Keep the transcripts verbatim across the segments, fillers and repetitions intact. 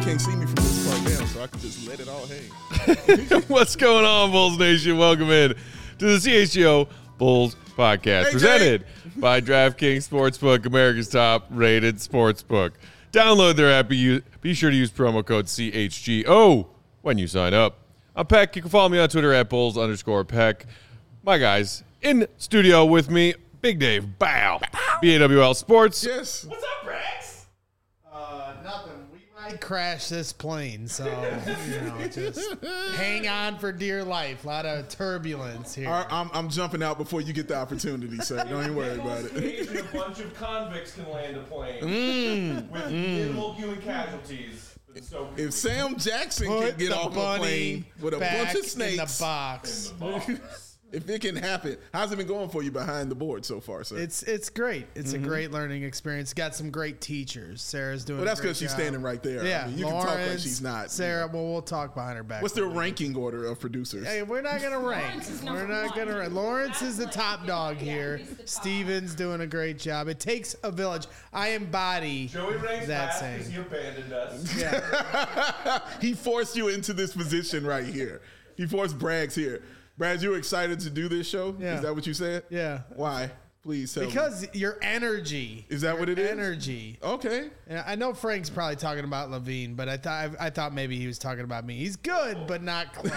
can't see me from this part down, so I can just let it all hang. What's going on, Bulls Nation? Welcome in to the C H G O Bulls Podcast, Hey, presented by DraftKings Sportsbook, America's top-rated sportsbook. Download their app. Be, be sure to use promo code C H G O when you sign up. I'm Peck. You can follow me on Twitter at Bulls underscore Peck. My guys in studio with me, Big Dave Bow, B A W L Sports. Yes. What's up, Rex? Uh, nothing. We might crash this plane, so, you know, just hang on for dear life. A lot of turbulence here. I- I'm, I'm jumping out before you get the opportunity, sir. Don't even worry about it. Occasionally, a bunch of convicts can land a plane Mm. with minimal human casualties. So If Sam Jackson Put can get the off a bunny plane with a back bunch of in snakes, the box. if it can happen, how's it been going for you behind the board so far, sir? It's it's great. It's a great learning experience. Got some great teachers. Sarah's doing. well, that's because she's standing right there. Yeah, I mean, you Lawrence, can talk like she's not. Sarah. Well, we'll talk behind her back. What's their ranking order of producers? Hey, we're not gonna rank. Lawrence is We're number not one. gonna rank. Lawrence is the top dog Yeah, here. he's the top. Steven's doing a great job. It takes a village. I embody Joey ranks that last saying. because he abandoned us. Yeah. He forced you into this position right here. He forced Braggs here. Braggs, you excited to do this show? Yeah. Is that what you said? Yeah. Why? Please tell me. Because your energy. Is that your what it is? Energy. Okay. And I know Frank's probably talking about Levine, but I thought I, thought maybe he was talking about me. He's good, but not clutch.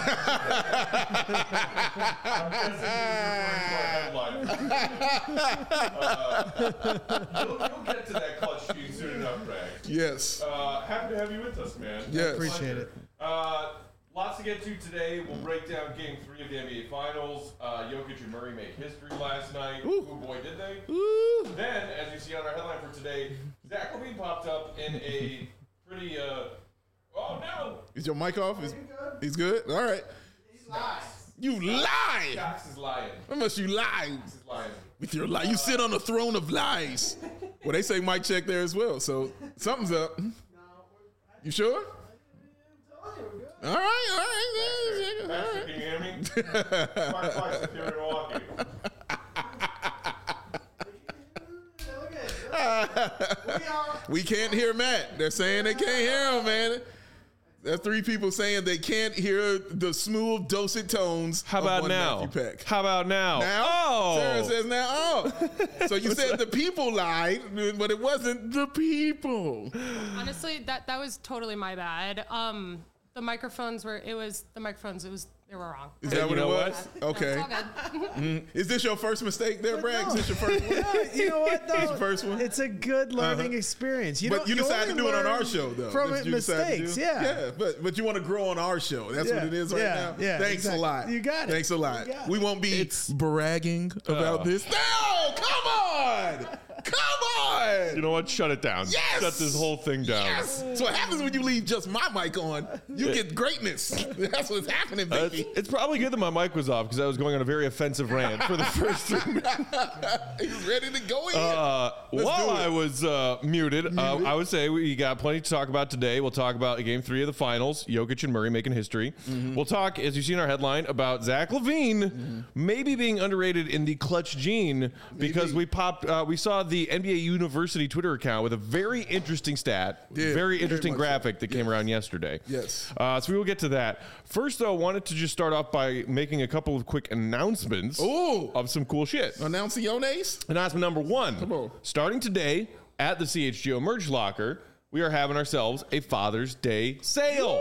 I'm guessing he was referring to our headline. uh, you'll, you'll get to that clutch speed soon enough, Bragg. Yes. Uh, happy to have you with us, man. Yes. Appreciate it. Uh, lots to get to today. We'll break down Game Three of the N B A Finals. Uh, Jokic and Murray made history last night. Ooh. Oh boy, did they! Ooh. Then, as you see on our headline for today, Zach LaVine popped up in a pretty. Uh, oh no! Is your mic off? Is, he's good? All right. You lie. Cox is lying. How much you lie He's lying. with with your lie? You sit on the throne of lies. Well, they say mic check there as well, so something's up. You sure? All right, all right. All Patrick, right. can you hear me? Five five here in Milwaukee. We can't hear Matt. They're saying they can't hear him, man. There are three people saying they can't hear the smooth, dulcet tones. How of about one now? Matthew Peck. How about now? Now? Oh! Sarah says now. Oh. So you said the people lied, but it wasn't the people. Honestly, that that was totally my bad. Um, the microphones were. It was the microphones. It was. They were wrong. Is that what you it know was? No, Okay. it's all good. Is this your first mistake there, Bragg? Is this your first one? You know what, though? It's the first one? It's a good learning Uh-huh. experience. You But don't- you decided to only do it on learn our show, though. From That's what you decided to mistakes, do? yeah. Yeah, but but you want to grow on our show. That's Yeah, what it is right yeah, now. yeah, Thanks exactly. a lot. You got it. Thanks a lot. You got We it. won't be It's- bragging about Uh. this. No, come on. Come on. You know what? Shut it down. Yes! Shut this whole thing down. Yes. So what happens when you leave just my mic on? You get greatness. That's what's happening, Uh, baby. it's, it's probably good that my mic was off because I was going on a very offensive rant for the first three minutes. He's ready to go in. Uh, Let's while do it. I was uh, muted, uh, I would say we got plenty to talk about today. We'll talk about Game Three of the Finals, Jokic and Murray making history. Mm-hmm. We'll talk, as you see in our headline, about Zach LaVine Mm-hmm. maybe being underrated in the clutch gene because we popped, uh, we saw the N B A University Twitter account with a very interesting stat, Yeah, very very interesting much graphic so. that came around yesterday. Yes. Uh, so we will get to that. First, though, wanted to just start off by making a couple of quick announcements Ooh. of some cool shit. Announcing your names? Announcement number one. Come on. Starting today at the C H G O Merch Locker, we are having ourselves a Father's Day sale.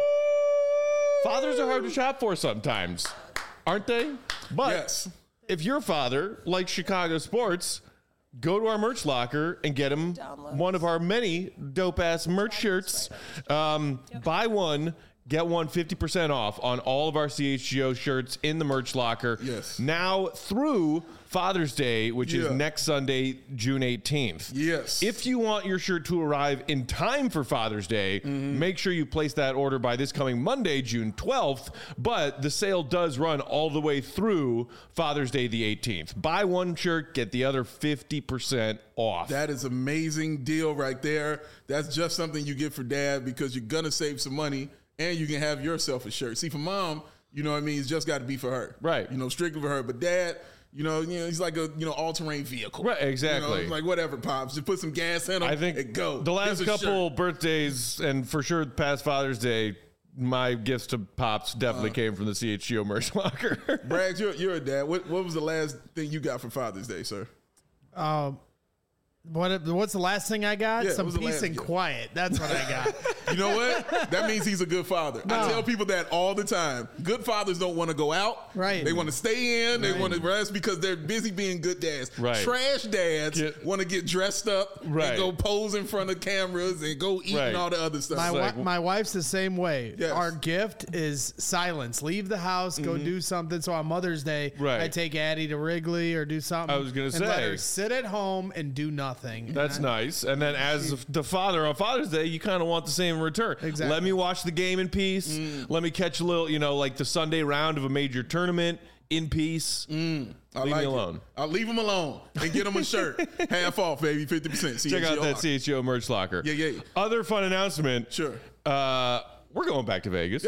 Fathers are hard to shop for sometimes, aren't they? But Yes. if your father likes Chicago sports, go to our merch locker and get him Downloads. one of our many dope-ass merch shirts. Um, Buy one, get one fifty percent off on all of our C H G O shirts in the merch locker. Yes. Now through Father's Day, which is Yeah. next Sunday, June eighteenth. Yes. If you want your shirt to arrive in time for Father's Day, Mm-hmm. make sure you place that order by this coming Monday, June twelfth. But the sale does run all the way through Father's Day, the eighteenth. Buy one shirt, get the other fifty percent off. That is amazing deal right there. That's just something you get for dad because you're going to save some money and you can have yourself a shirt. See, for mom, you know what I mean? It's just got to be for her. Right. You know, strictly for her. But dad, You know, you know, he's like a you know all terrain vehicle. Right, exactly. You know, like whatever, pops. Just put some gas in him. I think and go. the last Here's a couple shirt. birthdays and for sure past Father's Day, my gifts to Pops definitely Uh. came from the C H G O merch locker. Braggs, you're, you're a dad. What what was the last thing you got for Father's Day, sir? Um, what what's the last thing I got? Yeah, Some what's the peace last and gift? quiet. That's what I got. You know what? That means he's a good father. I No. tell people that all the time. Good fathers don't want to go out. Right. They want to stay in. They Right. want to rest because they're busy being good dads. Right. Trash dads Get- want to get dressed up Right. and go pose in front of cameras and go eat Right. and all the other stuff. My like- wi- my wife's the same way. Yes. Our gift is silence. Leave the house, go do something. So on Mother's Day, Mm-hmm. Right. I take Addie to Wrigley or do something. I was gonna and let say. her sit at home and do nothing. That's And I- nice. And then as the father on Father's Day, you kind of want the same in return. Exactly. Let me watch the game in peace. Mm. Let me catch a little, you know, like the Sunday round of a major tournament in peace. I Leave like me it. alone. I'll leave him alone and get him a shirt. Half off, baby. fifty percent. Check out that C H G O merch locker. Yeah, yeah. Other fun announcement. Sure. Uh, we're going back to Vegas.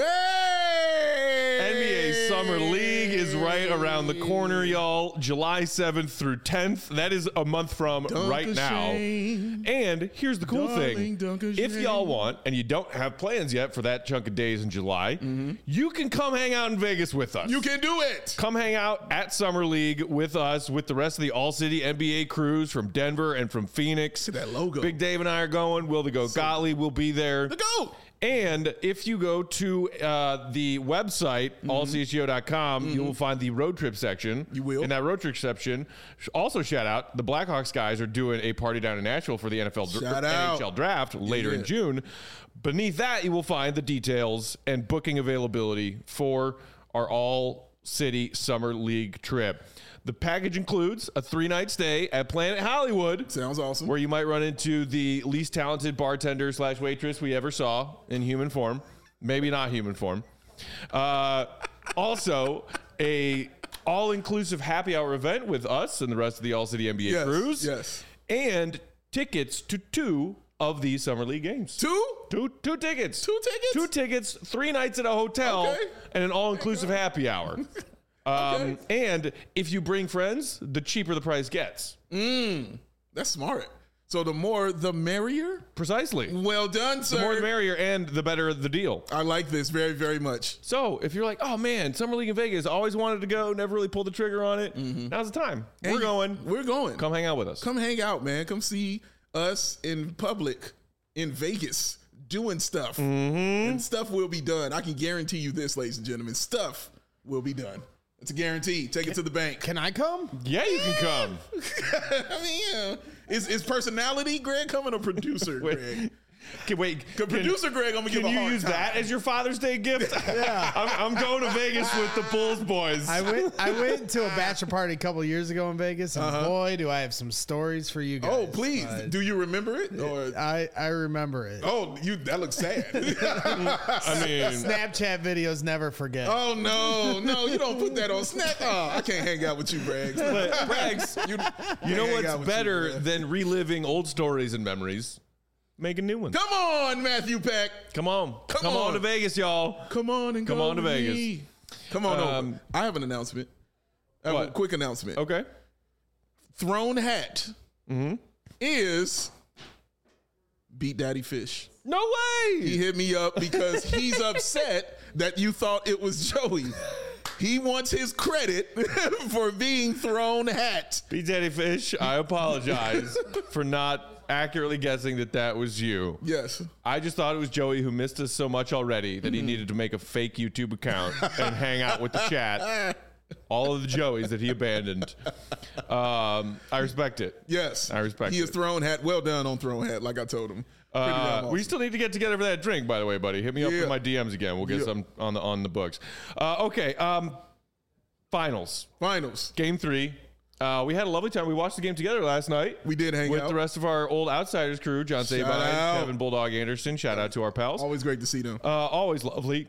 Yay! N B A Summer League is right around the corner, y'all. July seventh through tenth. That is a month from right now. Shane. And here's the cool Darling thing. Duncan If Shane. y'all want, and you don't have plans yet for that chunk of days in July, you can come hang out in Vegas with us. You can do it. Come hang out at Summer League with us, with the rest of the All-City N B A crews from Denver and from Phoenix. Look at that logo. Big Dave and I are going. Will the Goat Gottlieb will be there. The GOAT. And if you go to uh, the website, Mm-hmm. all c h g o dot com, you will find the road trip section. You will. In that road trip section, also shout out, the Blackhawks guys are doing a party down in Nashville for the N F L dr- Shout N out. H L draft later Yeah. in June. Beneath that, you will find the details and booking availability for our all-city Summer League trip. The package includes a three-night stay at Planet Hollywood, Sounds awesome. where you might run into the least talented bartender slash waitress we ever saw in human form. Maybe not human form. Uh, also, a all-inclusive happy hour event with us and the rest of the All-City N B A Yes, crews. yes. And tickets to two of the Summer League games. Two? Two, two tickets. Two tickets? Two tickets, three nights at a hotel, Okay. and an all-inclusive happy hour. Um, and if you bring friends, the cheaper the price gets. That's smart. So the more, the merrier. Precisely. Well done, sir. The more the merrier, and the better the deal. I like this very, very much. So if you're like, oh man, Summer League in Vegas, always wanted to go, never really pulled the trigger on it. Now's the time. We're And going. We're going. Come hang out with us. Come hang out, man. Come see us in public in Vegas doing stuff. Mm-hmm. And stuff will be done. I can guarantee you this, ladies and gentlemen. Stuff will be done. It's a guarantee. Take it to the bank. Can I come? Yeah, you can come. I mean, yeah. Is, is personality Greg coming or producer Wait. Greg? Can, wait, Can producer Greg, I'm gonna give Can a you hard use time. that as your Father's Day gift? yeah, I'm, I'm going to Vegas with the Bulls boys. I went. I went to a bachelor party a couple years ago in Vegas, and boy, do I have some stories for you guys. Oh, please. But Do you remember it? Or I I remember it. oh, you that looks sad. I mean, Snapchat videos never forget. oh no, no, you don't put that on Snap. Oh, I can't hang out with you, Braggs. but Brags, You, you know hang what's out with you, better man. than reliving old stories and memories? Making new ones. Come on, Matthew Peck. Come on. Come Come on on. to Vegas, y'all. Come on and Come go on to with Vegas. me. Come on Um, over. I have an announcement. I have a What? quick announcement. Okay. Throne Hat is Beat Daddy Fish. No way. He hit me up because he's upset that you thought it was Joey. He wants his credit for being Throne Hat. B. Daddy Fish, I apologize for not accurately guessing that that was you. Yes. I just thought it was Joey who missed us so much already that he needed to make a fake YouTube account and hang out with the chat. All of the Joeys that he abandoned. Um, I respect it. Yes. I respect He is it. Throne Hat. Well done on Throne Hat, like I told him. Pretty damn Uh, awesome. We still need to get together for that drink, by the way, buddy. Hit me up Yeah. in my D Ms again. We'll get Yeah. some on the on the books. Uh, okay. Um, finals. Finals. Game three. Uh, we had a lovely time. We watched the game together last night. We did hang with out. the rest of our old Outsiders crew, John Shout Sabine, out. Kevin Bulldog Anderson. Shout out to our pals. Always great to see them. Uh, always lovely.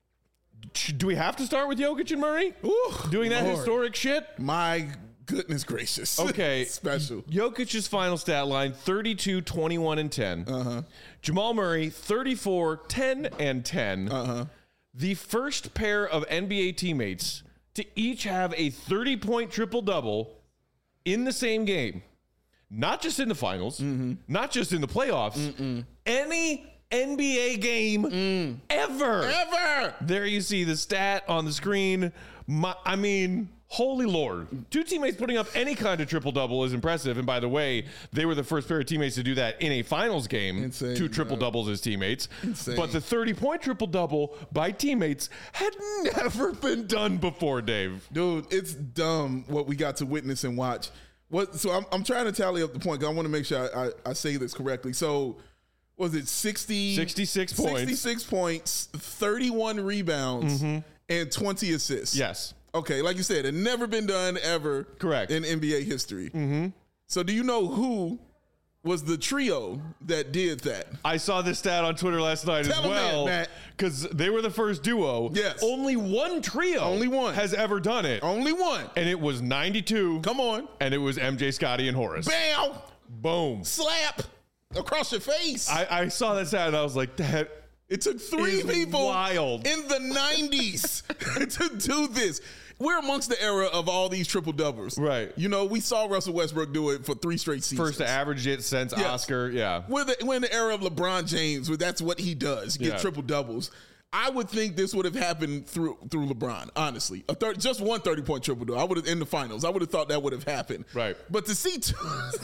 Do we have to start with Jokic and Murray? Ooh, Doing that Lord. historic shit? My goodness gracious. Okay. Special. Jokic's final stat line thirty-two, twenty-one, and ten. Uh-huh. Jamal Murray thirty-four, ten, and ten. Uh-huh. The first pair of N B A teammates to each have a thirty-point triple-double in the same game. Not just in the finals, mm-hmm. not just in the playoffs, Mm-mm. any N B A game mm. ever. Ever. There you see the stat on the screen. My, I mean, holy Lord. Two teammates putting up any kind of triple-double is impressive. And by the way, they were the first pair of teammates to do that in a finals game. Insane, two triple-doubles as teammates. Insane. But the thirty-point triple-double by teammates had never been done before, Dave. Dude, it's dumb what we got to witness and watch. What? So I'm, I'm trying to tally up the point, because I want to make sure I, I, I say this correctly. So was it sixty? sixty-six points. sixty-six points, thirty-one rebounds, mm-hmm. and twenty assists. Yes. Okay, like you said, it never been done ever. Correct. In N B A history. Mm-hmm. So do you know who was the trio that did that? I saw this stat on Twitter last night Tell as well, because they were the first duo. Yes. Only one trio Only one. has ever done it. Only one. And it was ninety-two. Come on. And it was M J, Scotty, and Horace. Bam! Boom. Slap across your face. I, I saw that stat and I was like, that It took three is people wild. in the nineties to do this. We're amongst the era of all these triple doubles. Right. You know, we saw Russell Westbrook do it for three straight seasons. First to average it since Yes. Oscar. Yeah. We're, the, we're in the era of LeBron James, where that's what he does, get Yeah. triple doubles. I would think this would have happened through through LeBron, honestly. A third, just one thirty-point triple double. I would have in the finals. I would have thought that would have happened. Right. But to see two,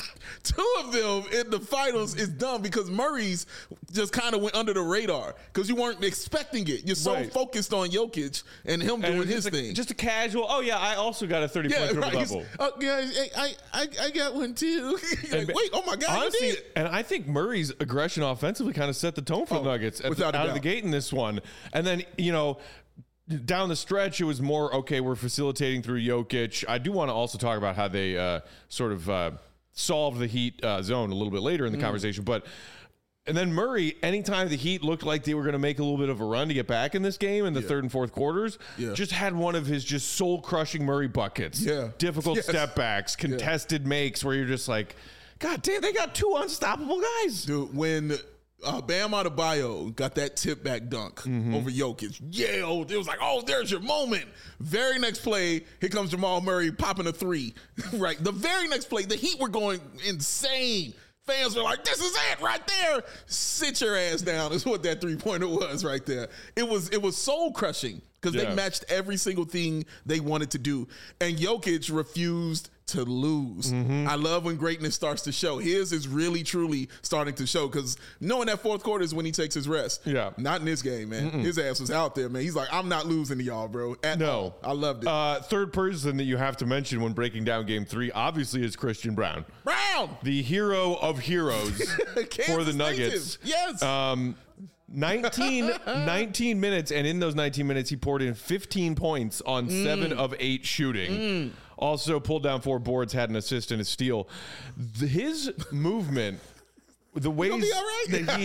two of them in the finals is dumb, because Murray's just kind of went under the radar because you weren't expecting it. You're so Right. focused on Jokic and him And it doing was his just a, thing. Just a casual, oh yeah, I also got a thirty-point yeah, triple right. He's, double. Oh, yeah, I, I, I got one too. Like, wait, oh my God, Honestly, you did. and I think Murray's aggression offensively kind of set the tone for Oh, the Nuggets at, without a out of the doubt. gate in this one. And then, you know, down the stretch, it was more, okay, we're facilitating through Jokic. I do want to also talk about how they uh, sort of uh, solved the Heat uh, zone a little bit later in the Mm. conversation. But and then Murray, anytime the Heat looked like they were going to make a little bit of a run to get back in this game in the Yeah. third and fourth quarters, Yeah. just had one of his just soul-crushing Murray buckets. Yeah. Difficult Yes. step backs, contested makes where you're just like, God damn, they got two unstoppable guys. Dude, when uh, Bam Adebayo got that tip back dunk Mm-hmm. over Jokic, yelled. It was like, oh, there's your moment. Very next play, here comes Jamal Murray popping a three. Right. The very next play, the Heat were going insane. Fans were like, this is it right there. Sit your ass down is what that three-pointer was right there. It was it was soul-crushing because Yeah. they matched every single thing they wanted to do. And Jokic refused to lose. Mm-hmm. I love when greatness starts to show. His is really, truly starting to show, because knowing that fourth quarter is when he takes his rest. Yeah. Not in this game, man. His ass was out there, man. He's like, I'm not losing to y'all, bro. At No. all. I loved it. Uh, third person that you have to mention when breaking down game three, obviously, is Christian Brown, Brown! the hero of heroes for the Kansas Nuggets. native. Yes. Um, nineteen, nineteen minutes, and in those nineteen minutes, he poured in fifteen points on Mm. seven of eight shooting. Also pulled down four boards, had an assist and a steal. The- his movement, the ways be all right. that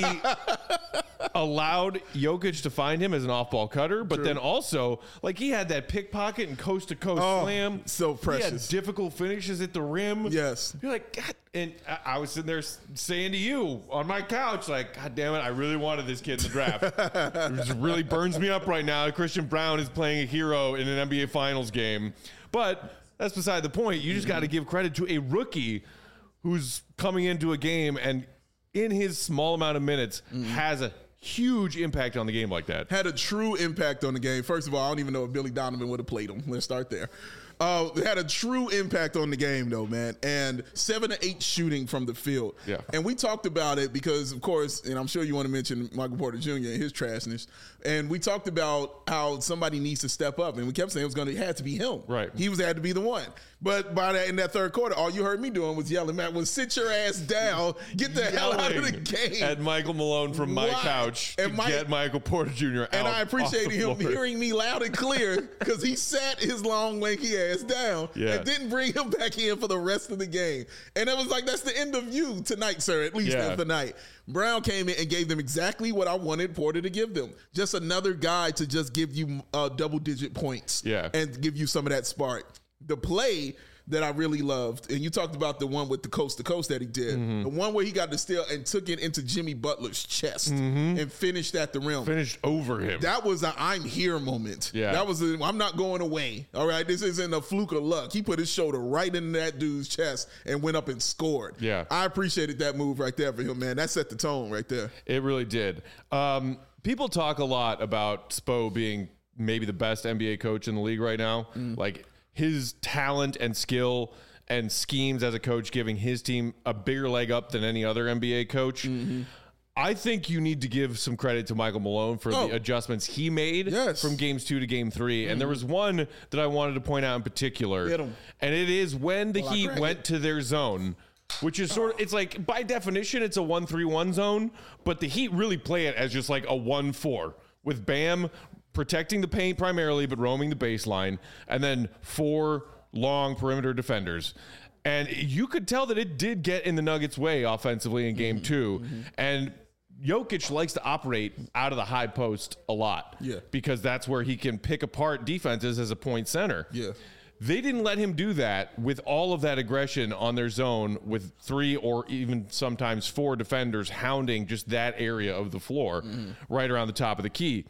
he allowed Jokic to find him as an off-ball cutter, but then also, like, he had that pickpocket and coast-to-coast Oh, slam. so He precious. had difficult finishes at the rim. Yes. You're like, God, and I, I was sitting there s- saying to you on my couch, like, God damn it, I really wanted this kid in the draft. It just really burns me up right now. Christian Brown is playing a hero in an N B A Finals game. But that's beside the point. You just got to give credit to a rookie who's coming into a game and in his small amount of minutes has a huge impact on the game like that. Had a true impact on the game. First of all, I don't even know if Billy Donovan would have played him. Let's start there. Uh, had a true impact on the game, though, man. And seven to eight shooting from the field. Yeah. And we talked about it because, of course, and I'm sure you want to mention Michael Porter Junior and his trashness. And we talked about how somebody needs to step up, and we kept saying it was going to had to be him. Right. He was had to be the one. But by that in that third quarter, all you heard me doing was yelling, "Matt, was sit your ass down, get the hell out of the Yelling game." at Michael Malone from my Why? couch to And Mike- get Michael Porter Junior out. And I appreciated off the him floor. hearing me loud and clear because he sat his long, lanky ass down Yeah. and didn't bring him back in for the rest of the game. And it was like, that's the end of you tonight, sir, at least Yeah. of the night. Brown came in and gave them exactly what I wanted Porter to give them. Just another guy to just give you uh, double-digit points Yeah. and give you some of that spark. The play that I really loved, and you talked about the one with the coast to coast that he did, mm-hmm. the one where he got the steal and took it into Jimmy Butler's chest mm-hmm. and finished at the rim. Finished over him. That was a I'm here moment. Yeah. That was a I'm not going away. All right. This isn't a fluke of luck. He put his shoulder right into that dude's chest and went up and scored. Yeah. I appreciated that move right there for him, man. That set the tone right there. It really did. Um, people talk a lot about Spo being maybe the best N B A coach in the league right now. Mm. Like his talent and skill and schemes as a coach giving his team a bigger leg up than any other N B A coach. Mm-hmm. I think you need to give some credit to Michael Malone for oh. the adjustments he made yes. from games two to game three. Mm-hmm. And there was one that I wanted to point out in particular. And it is when the well, Heat went to their zone, which is sort of, it's like by definition, it's a one three one zone, but the Heat really play it as just like a one four with Bam protecting the paint primarily, but roaming the baseline, and then four long perimeter defenders. And you could tell that it did get in the Nuggets' way offensively in game mm-hmm. two. Mm-hmm. And Jokic likes to operate out of the high post a lot. Yeah. Because that's where he can pick apart defenses as a point center. Yeah. They didn't let him do that with all of that aggression on their zone with three or even sometimes four defenders hounding just that area of the floor mm-hmm. right around the top of the key.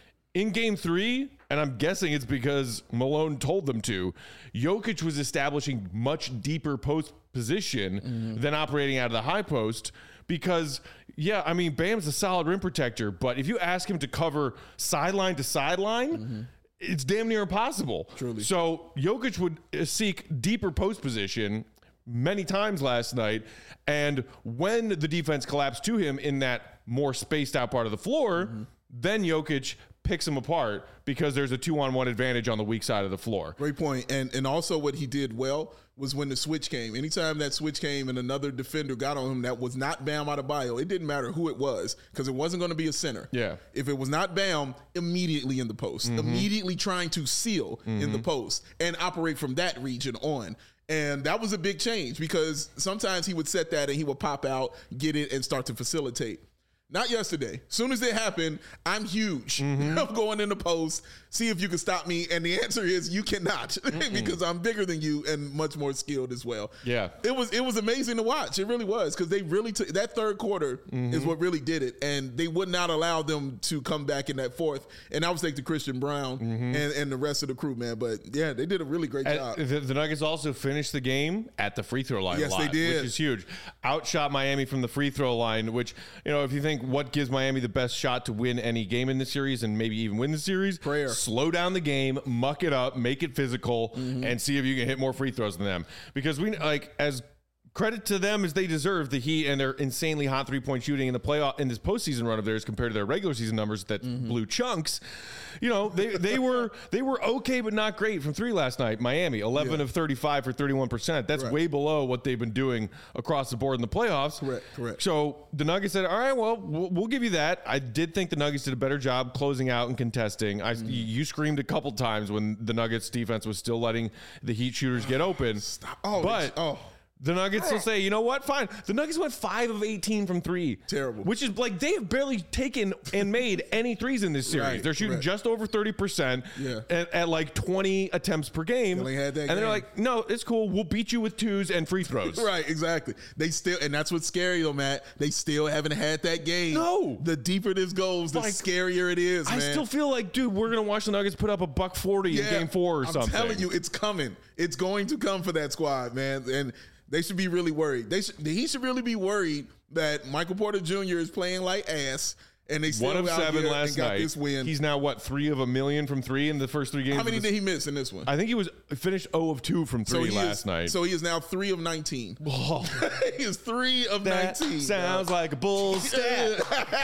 In game three, and I'm guessing it's because Malone told them to, Jokic was establishing much deeper post position mm-hmm. than operating out of the high post because, yeah, I mean, Bam's a solid rim protector, but if you ask him to cover sideline to sideline, mm-hmm. it's damn near impossible. Truly. So Jokic would seek deeper post position many times last night, and when the defense collapsed to him in that more spaced out part of the floor, mm-hmm. then Jokic picks him apart because there's a two-on-one advantage on the weak side of the floor. Great point. And and also what he did well was when the switch came. Anytime that switch came and another defender got on him that was not Bam Adebayo, it didn't matter who it was because it wasn't going to be a center. Yeah. If it was not Bam, immediately in the post, mm-hmm. immediately trying to seal mm-hmm. in the post and operate from that region on. And that was a big change because sometimes he would set that and he would pop out, get it, and start to facilitate. Not yesterday. Soon as it happened, I'm huge. Mm-hmm. I'm going in the post, see if you can stop me. And the answer is you cannot because I'm bigger than you and much more skilled as well. Yeah. It was it was amazing to watch. It really was because they really took that third quarter mm-hmm. is what really did it. And they would not allow them to come back in that fourth. And I was thanks to Christian Brown mm-hmm. and, and the rest of the crew, man. But yeah, they did a really great and job. The, the Nuggets also finished the game at the free throw line yes, a lot, they did. which is huge. Outshot Miami from the free throw line, which, you know, if you think what gives Miami the best shot to win any game in the series and maybe even win the series, prayer. Slow down the game, muck it up, make it physical, mm-hmm. and see if you can hit more free throws than them. Because we like as credit to them as they deserve, the Heat and their insanely hot three-point shooting in the playoff in this postseason run of theirs compared to their regular season numbers that mm-hmm. blew chunks. You know, they they were they were okay but not great from three last night. Miami, eleven yeah. of thirty-five for thirty-one percent. That's correct. way below what they've been doing across the board in the playoffs. Correct, correct. So the Nuggets said, all right, well, we'll, we'll give you that. I did think the Nuggets did a better job closing out and contesting. I, mm-hmm. You screamed a couple times when the Nuggets defense was still letting the Heat shooters get open. Stop. Oh, but oh. the Nuggets will say, you know what? Fine. The Nuggets went five of eighteen from three. Terrible. Which is like they have barely taken and made any threes in this series. Right, they're shooting correct. just over thirty percent yeah. at, at like twenty attempts per game. Still ain't had that and game. they're like, no, it's cool. We'll beat you with twos and free throws. Right, exactly. They still, and that's what's scary though, Matt. They still haven't had that game. No. The deeper this goes, the Like, scarier it is, I man. still feel like, dude, we're going to watch the Nuggets put up a buck forty yeah, in game four or I'm something. telling you, it's coming. It's going to come for that squad, man. And they should be really worried. They should, he should really be worried that Michael Porter Junior is playing like ass, and they still One of out seven here last and got night. this win. He's now, what, three of a million from three in the first three games? How many of did he miss in this one? I think he was finished zero of two from three so last is, night. So he is now three of nineteen. Oh. He is three of That nineteen. sounds like a bull stat.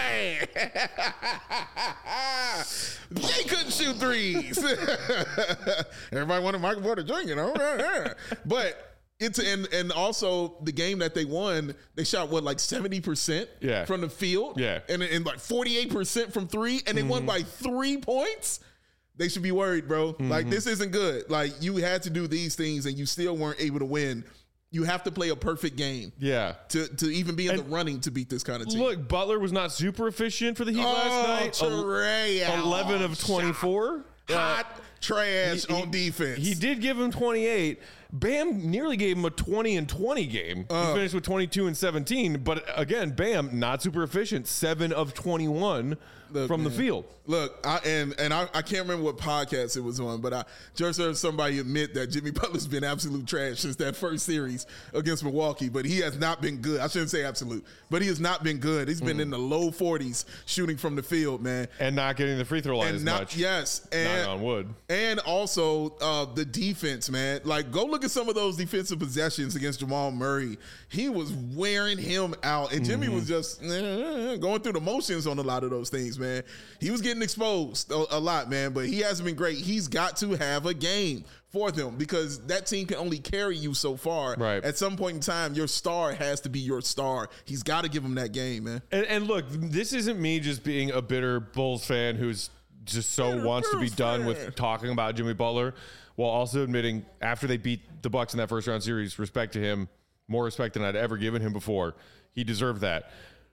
They couldn't shoot threes. Everybody wanted Michael Porter Junior, you know? But it's and and also the game that they won, they shot what, like seventy percent yeah. from the field, yeah, and and like forty-eight percent from three, and they mm-hmm. won by three points. They should be worried, bro. Mm-hmm. Like, this isn't good. Like, you had to do these things and you still weren't able to win. You have to play a perfect game, yeah, to to even be in and the running to beat this kind of team. Look, Butler was not super efficient for the Heat oh, last night. Trey eleven of twenty-four. Hot trash He- on defense. He did give him twenty-eight. Bam nearly gave him a twenty and twenty game. Uh. he finished with twenty-two and seventeen. But again, Bam, not super efficient. seven of twenty-one Look, from the man. field. Look, I, and and I, I can't remember what podcast it was on, but I just heard somebody admit that Jimmy Butler's been absolute trash since that first series against Milwaukee, but he has not been good. I shouldn't say absolute, but he has not been good. He's been Mm. in the low forties shooting from the field, man. And not getting the free throw line And as not, much. yes, and Knock on wood. And also uh, the defense, man. Like, go look at some of those defensive possessions against Jamal Murray. He was wearing him out, and Jimmy Mm-hmm. was just eh, going through the motions on a lot of those things, man. He was getting exposed a, a lot, man, but he hasn't been great. He's got to have a game for them because that team can only carry you so far. Right. At some point in time, your star has to be your star. He's got to give him that game, man. And, and look, this isn't me just being a bitter Bulls fan who's just so Bitter wants to be Bulls done fan. with talking about Jimmy Butler, while also admitting after they beat the Bucks in that first round series, respect to him, more respect than I'd ever given him before. He deserved that.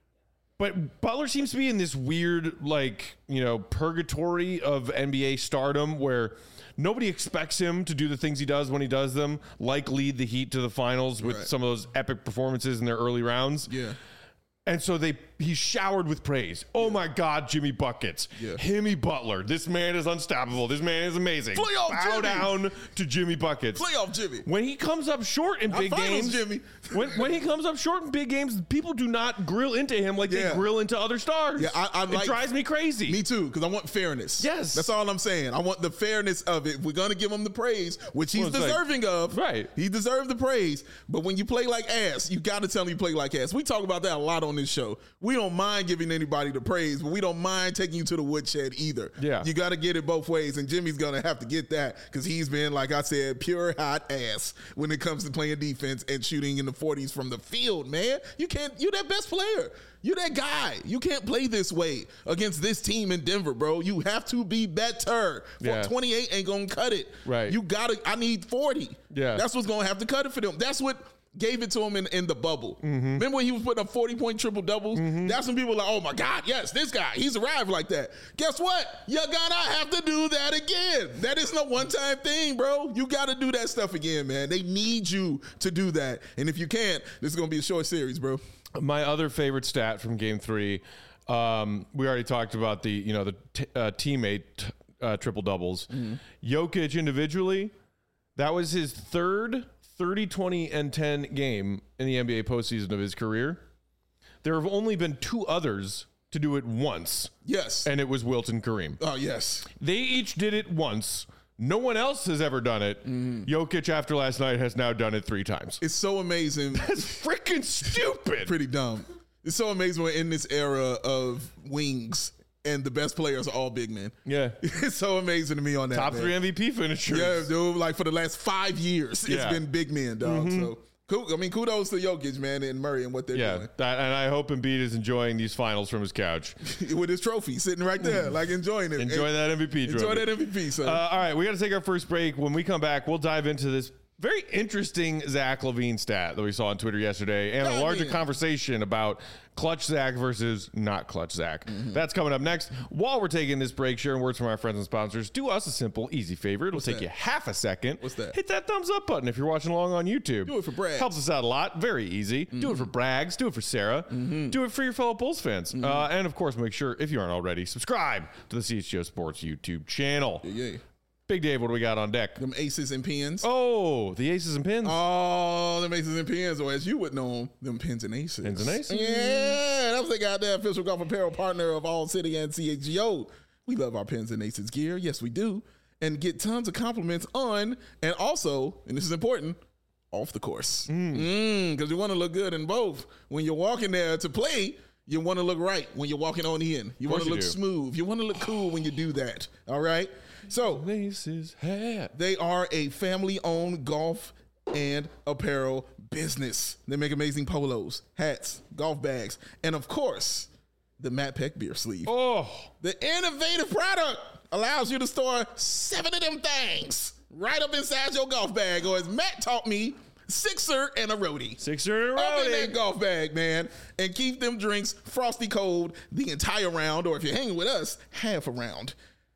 But Butler seems to be in this weird, like, you know, purgatory of N B A stardom where nobody expects him to do the things he does when he does them, like lead the Heat to the finals with Right. some of those epic performances in their early rounds. Yeah. And so they he's showered with praise. Oh my God, Jimmy Buckets. Yeah. Jimmy Butler. This man is unstoppable. This man is amazing. Playoff Bow Jimmy. down to Jimmy Buckets. Playoff Jimmy. When he comes up short in Not big finals, games, Jimmy. when when he comes up short in big games, people do not grill into him like Yeah. they grill into other stars. Yeah, I- I it like- drives me crazy. Me too, because I want fairness. Yes. That's all I'm saying. I want the fairness of it. If we're going to give him the praise, which he's Well, it's like- deserving of. Right. He deserves the praise. But when you play like ass, you got to tell him you play like ass. We talk about that a lot on this show. We don't mind giving anybody the praise, but we don't mind taking you to the woodshed either. Yeah. You got to get it both ways, and Jimmy's going to have to get that because he's been, like I said, pure hot ass when it comes to playing defense and shooting in the forties from the field, man. You can't, you're that best player. You're that guy. You can't play this way against this team in Denver, bro. You have to be better. Yeah. twenty-eight ain't going to cut it. Right. You got to, I need forty. Yeah. That's what's going to have to cut it for them. That's what gave it to him in, in the bubble. Mm-hmm. Remember when he was putting up forty-point triple doubles? That's when people were like, oh my God, yes, this guy, he's arrived like that. Guess what? You're going to have to do that again. That isn't a one-time thing, bro. You got to do that stuff again, man. They need you to do that. And if you can't, this is going to be a short series, bro. My other favorite stat from Game Three, um, we already talked about the you know the t- uh, teammate uh, triple doubles. Jokic individually, that was his third thirty, twenty, and ten game in the N B A postseason of his career. There have only been two others to do it once, Yes. and it was Wilt and Kareem. Oh, yes. They each did it once. No one else has ever done it. Jokic, after last night, has now done it three times. It's so amazing. That's freaking stupid. Pretty dumb. It's so amazing we're in this era of wings and the best players are all big men. Yeah. It's so amazing to me on that. Top man. three M V P finishers. Yeah, dude. Like for the last five years, Yeah. it's been big men, dog. So, cool. I mean, kudos to Jokic, man, and Murray and what they're Yeah, that, and I hope Embiid is enjoying these finals from his couch. doing with his trophy sitting right there, like enjoying it. Enjoy And that M V P trophy. Enjoy that M V P. So, Uh, all right, we got to take our first break. When we come back, we'll dive into this very interesting Zach LaVine stat that we saw on Twitter yesterday and a God larger damn. conversation about clutch Zach versus not clutch Zach. Mm-hmm. That's coming up next. While we're taking this break, sharing words from our friends and sponsors, do us a simple, easy favor. It'll take that? you half a second. What's that? Hit that thumbs up button if you're watching along on YouTube. Do it for Brags. Helps us out a lot. Very easy. Mm-hmm. Do it for Brags. Do it for Sarah. Do it for your fellow Bulls fans. Mm-hmm. Uh, and of course, make sure, if you aren't already, subscribe to the C H G O Sports YouTube channel. yeah, Big Dave, what do we got on deck? them aces and pins. Oh, the aces and pins. Oh, them aces and pins, or as you would know them, them pins and aces. Pins and aces. Yeah, that was the goddamn official golf apparel partner of All City and C H G O. We love our pins and aces gear. Yes, we do. And get tons of compliments on, and also, and this is important, off the course. Because you want to look good in both. When you're walking there to play, you want to look right when you're walking on in. You want course to you look do. smooth. You want to look cool when you do that. All right? So, Aces hat. they are a family-owned golf and apparel business. They make amazing polos, hats, golf bags, and of course, the Matt Peck beer sleeve. Oh, The innovative product allows you to store seven of them things right up inside your golf bag, or as Matt taught me, sixer and a roadie. sixer in a Up in row. that golf bag, man, and keep them drinks frosty cold the entire round, or if you're hanging with us, half a round.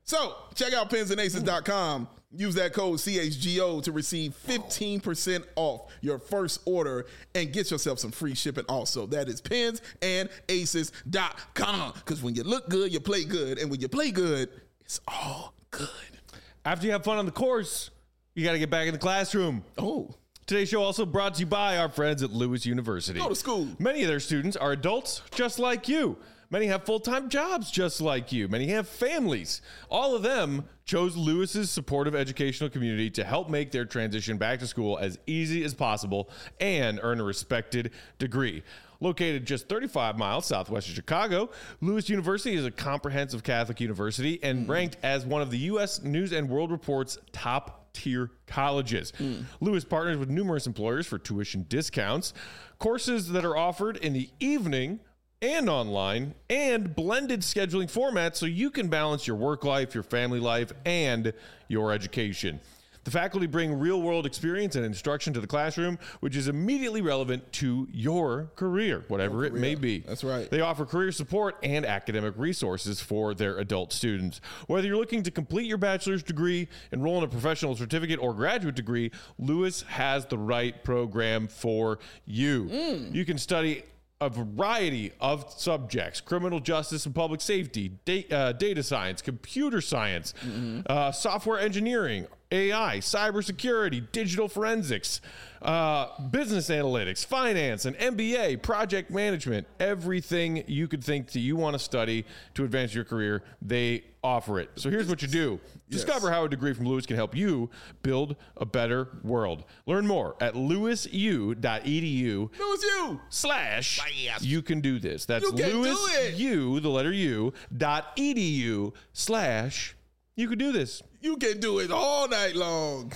So check out pens and aces dot com. Use that code C H G O to receive fifteen percent off your first order and get yourself some free shipping also. That is pens and aces dot com. Because when you look good, you play good. And when you play good, it's all good. After you have fun on the course, you got to get back in the classroom. Oh. Today's show also brought to you by our friends at Lewis University. Go to school. Many of their students are adults just like you. Many have full-time jobs just like you. Many have families. All of them chose Lewis's supportive educational community to help make their transition back to school as easy as possible and earn a respected degree. Located just thirty-five miles southwest of Chicago, Lewis University is a comprehensive Catholic university and ranked as one of the U S News and World Report's top tier colleges. Mm. Lewis partners with numerous employers for tuition discounts, courses that are offered in the evening and online, and blended scheduling formats so you can balance your work life, your family life, and your education. The faculty bring real-world experience and instruction to the classroom, which is immediately relevant to your career, whatever Your it career. may be. That's right. They offer career support and academic resources for their adult students. Whether you're looking to complete your bachelor's degree, enroll in a professional certificate, or graduate degree, Lewis has the right program for you. Mm. You can study a variety of subjects: criminal justice and public safety, da- uh, data science, computer science, mm-hmm. uh, software engineering, A I, cybersecurity, digital forensics, uh, business analytics, finance, and M B A, project management. Everything you could think that you want to study to advance your career, they offer it. So here's what you do. Yes. Discover how a degree from Lewis can help you build a better world. Learn more at lewis u dot e d u Lewis U slash Yes. you can do this. That's You can do Lewis it. U, the letter U, dot edu slash you can do this. You can do it all night long.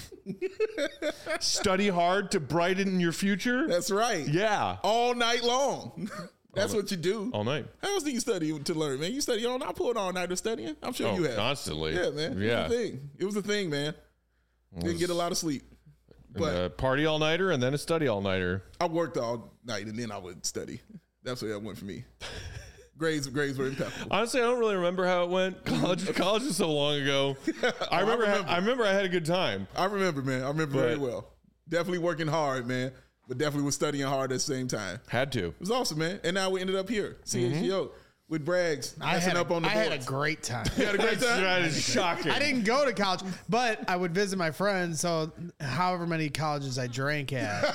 Study hard to brighten your future. That's right. Yeah. All night long. That's what you do. All night. How else do you study to learn, man? You study all night. I pulled all nighter studying. I'm sure Oh, you have. constantly. Yeah, man. Yeah. It was a thing. It was a thing, man. Didn't get a lot of sleep. But a party all nighter and then a study all nighter. I worked all night and then I would study. That's where that went for me. grades, grades were impeccable. Honestly, I don't really remember how it went. College, college was so long ago. I remember. I remember. I remember I had a good time. I remember, man. I remember very But- well. Definitely working hard, man. But definitely was studying hard at the same time. Had to. It was awesome, man. And now we ended up here, C H G O, with Braggs I messing had, up on a, the I boards. had a great time. You had a great time? That is shocking. I didn't go to college, but I would visit my friends. So, however many colleges I drank at,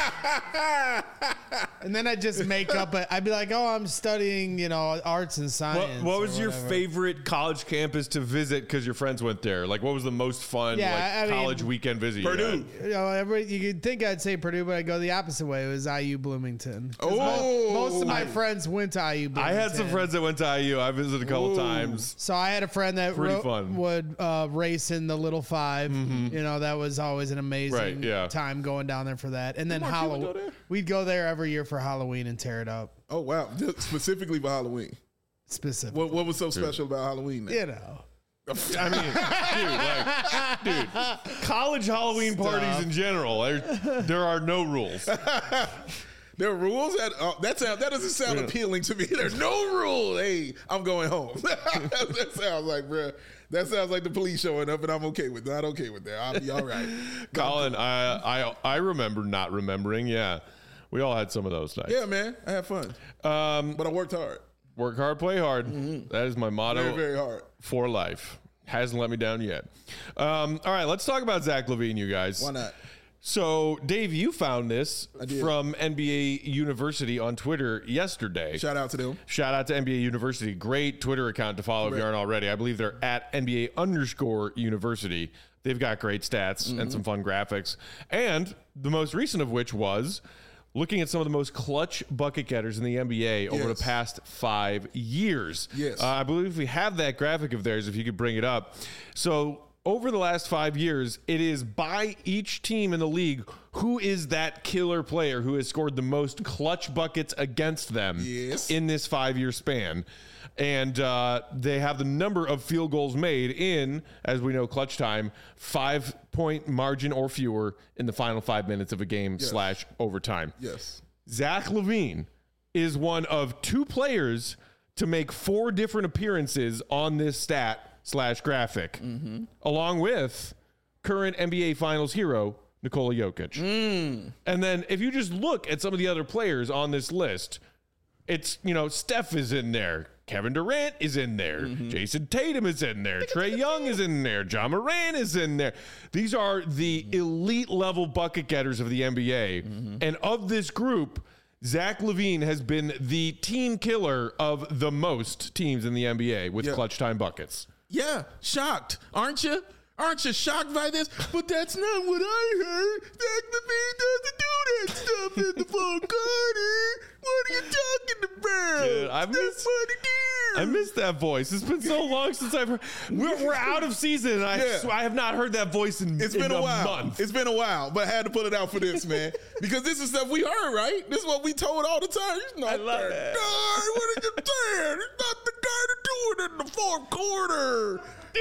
and then I'd just make up. A, I'd be like, "Oh, I'm studying, you know, arts and What, science." what or was your whatever. favorite college campus to visit because your friends went there? Like, what was the most fun Yeah, like, I mean, college weekend visit? you Purdue. had? You know, every, you could think I'd say Purdue, but I go the opposite way. It was I U Bloomington. 'Cause Oh. mo- most of my friends went to I U I Bloomington. had some friends that went to I U. I visited a couple Ooh. times. So I had a friend that Pretty ro- fun. would uh, race in the Little Five. You know, that was always an amazing Right, yeah. time going down there for that. And then Mark, you would Halloween, go there? we'd go there every year for Halloween and tear it up. Oh, wow. Just specifically for Halloween. Specific, What, what was so special about Halloween? you know. I mean, dude, like, dude, college Halloween parties in general, there, there are no rules. There are rules? That, uh, that, sound, that doesn't sound Yeah. appealing to me. There's no rule. Hey, I'm going home. That sounds like, bruh, that sounds like the police showing up, and I'm okay with that. Not okay with that. I'll be all right. Colin, I, I I remember not remembering. Yeah, we all had some of those nights. Yeah, man. I had fun. Um, But I worked hard. work hard, play hard. That is my motto Very, very hard. for life. Hasn't let me down yet. Um, all right, let's talk about Zach LaVine, you guys. Why not? So, Dave, you found this did. from N B A University on Twitter yesterday. Shout out to them. Shout out to N B A University. Great Twitter account to follow if you Correct. aren't already. I believe they're at N B A underscore university. They've got great stats Mm-hmm. and some fun graphics. And the most recent of which was looking at some of the most clutch bucket getters in the N B A over Yes. the past five years. Yes. Uh, I believe we have that graphic of theirs if you could bring it up. So over the last five years, it is by each team in the league who is that killer player who has scored the most clutch buckets against them Yes. in this five-year span. And uh, they have the number of field goals made in, as we know, clutch time, five-point margin or fewer in the final five minutes of a game slash overtime. Yes. Zach LaVine is one of two players to make four different appearances on this stat slash graphic, Mm-hmm. along with current N B A Finals hero Nikola Jokic. Mm. And then if you just look at some of the other players on this list, it's, you know, Steph is in there. Kevin Durant is in there. Mm-hmm. Jason Tatum is in there. Trae Young is in there. John Moran is in there. These are the elite level bucket getters of the N B A. Mm-hmm. And of this group, Zach LaVine has been the team killer of the most teams in the N B A with Yeah. clutch time buckets. Yeah, shocked, aren't you? Aren't you shocked by this? But that's not what I heard. Zach LaVine doesn't do that stuff in the fourth quarter. What are you talking about? Dude, I That's miss- what it is. I miss that voice. It's been so long since I've heard. We're, we're out of season, and I, Yeah. sw- I have not heard that voice in, It's in been a, a while. month. It's been a while, but I had to put it out for this, man. Because this is stuff we heard, right? This is what we told all the time. He's not I love that it. guy. What are you saying? He's not the guy to do it in the fourth quarter.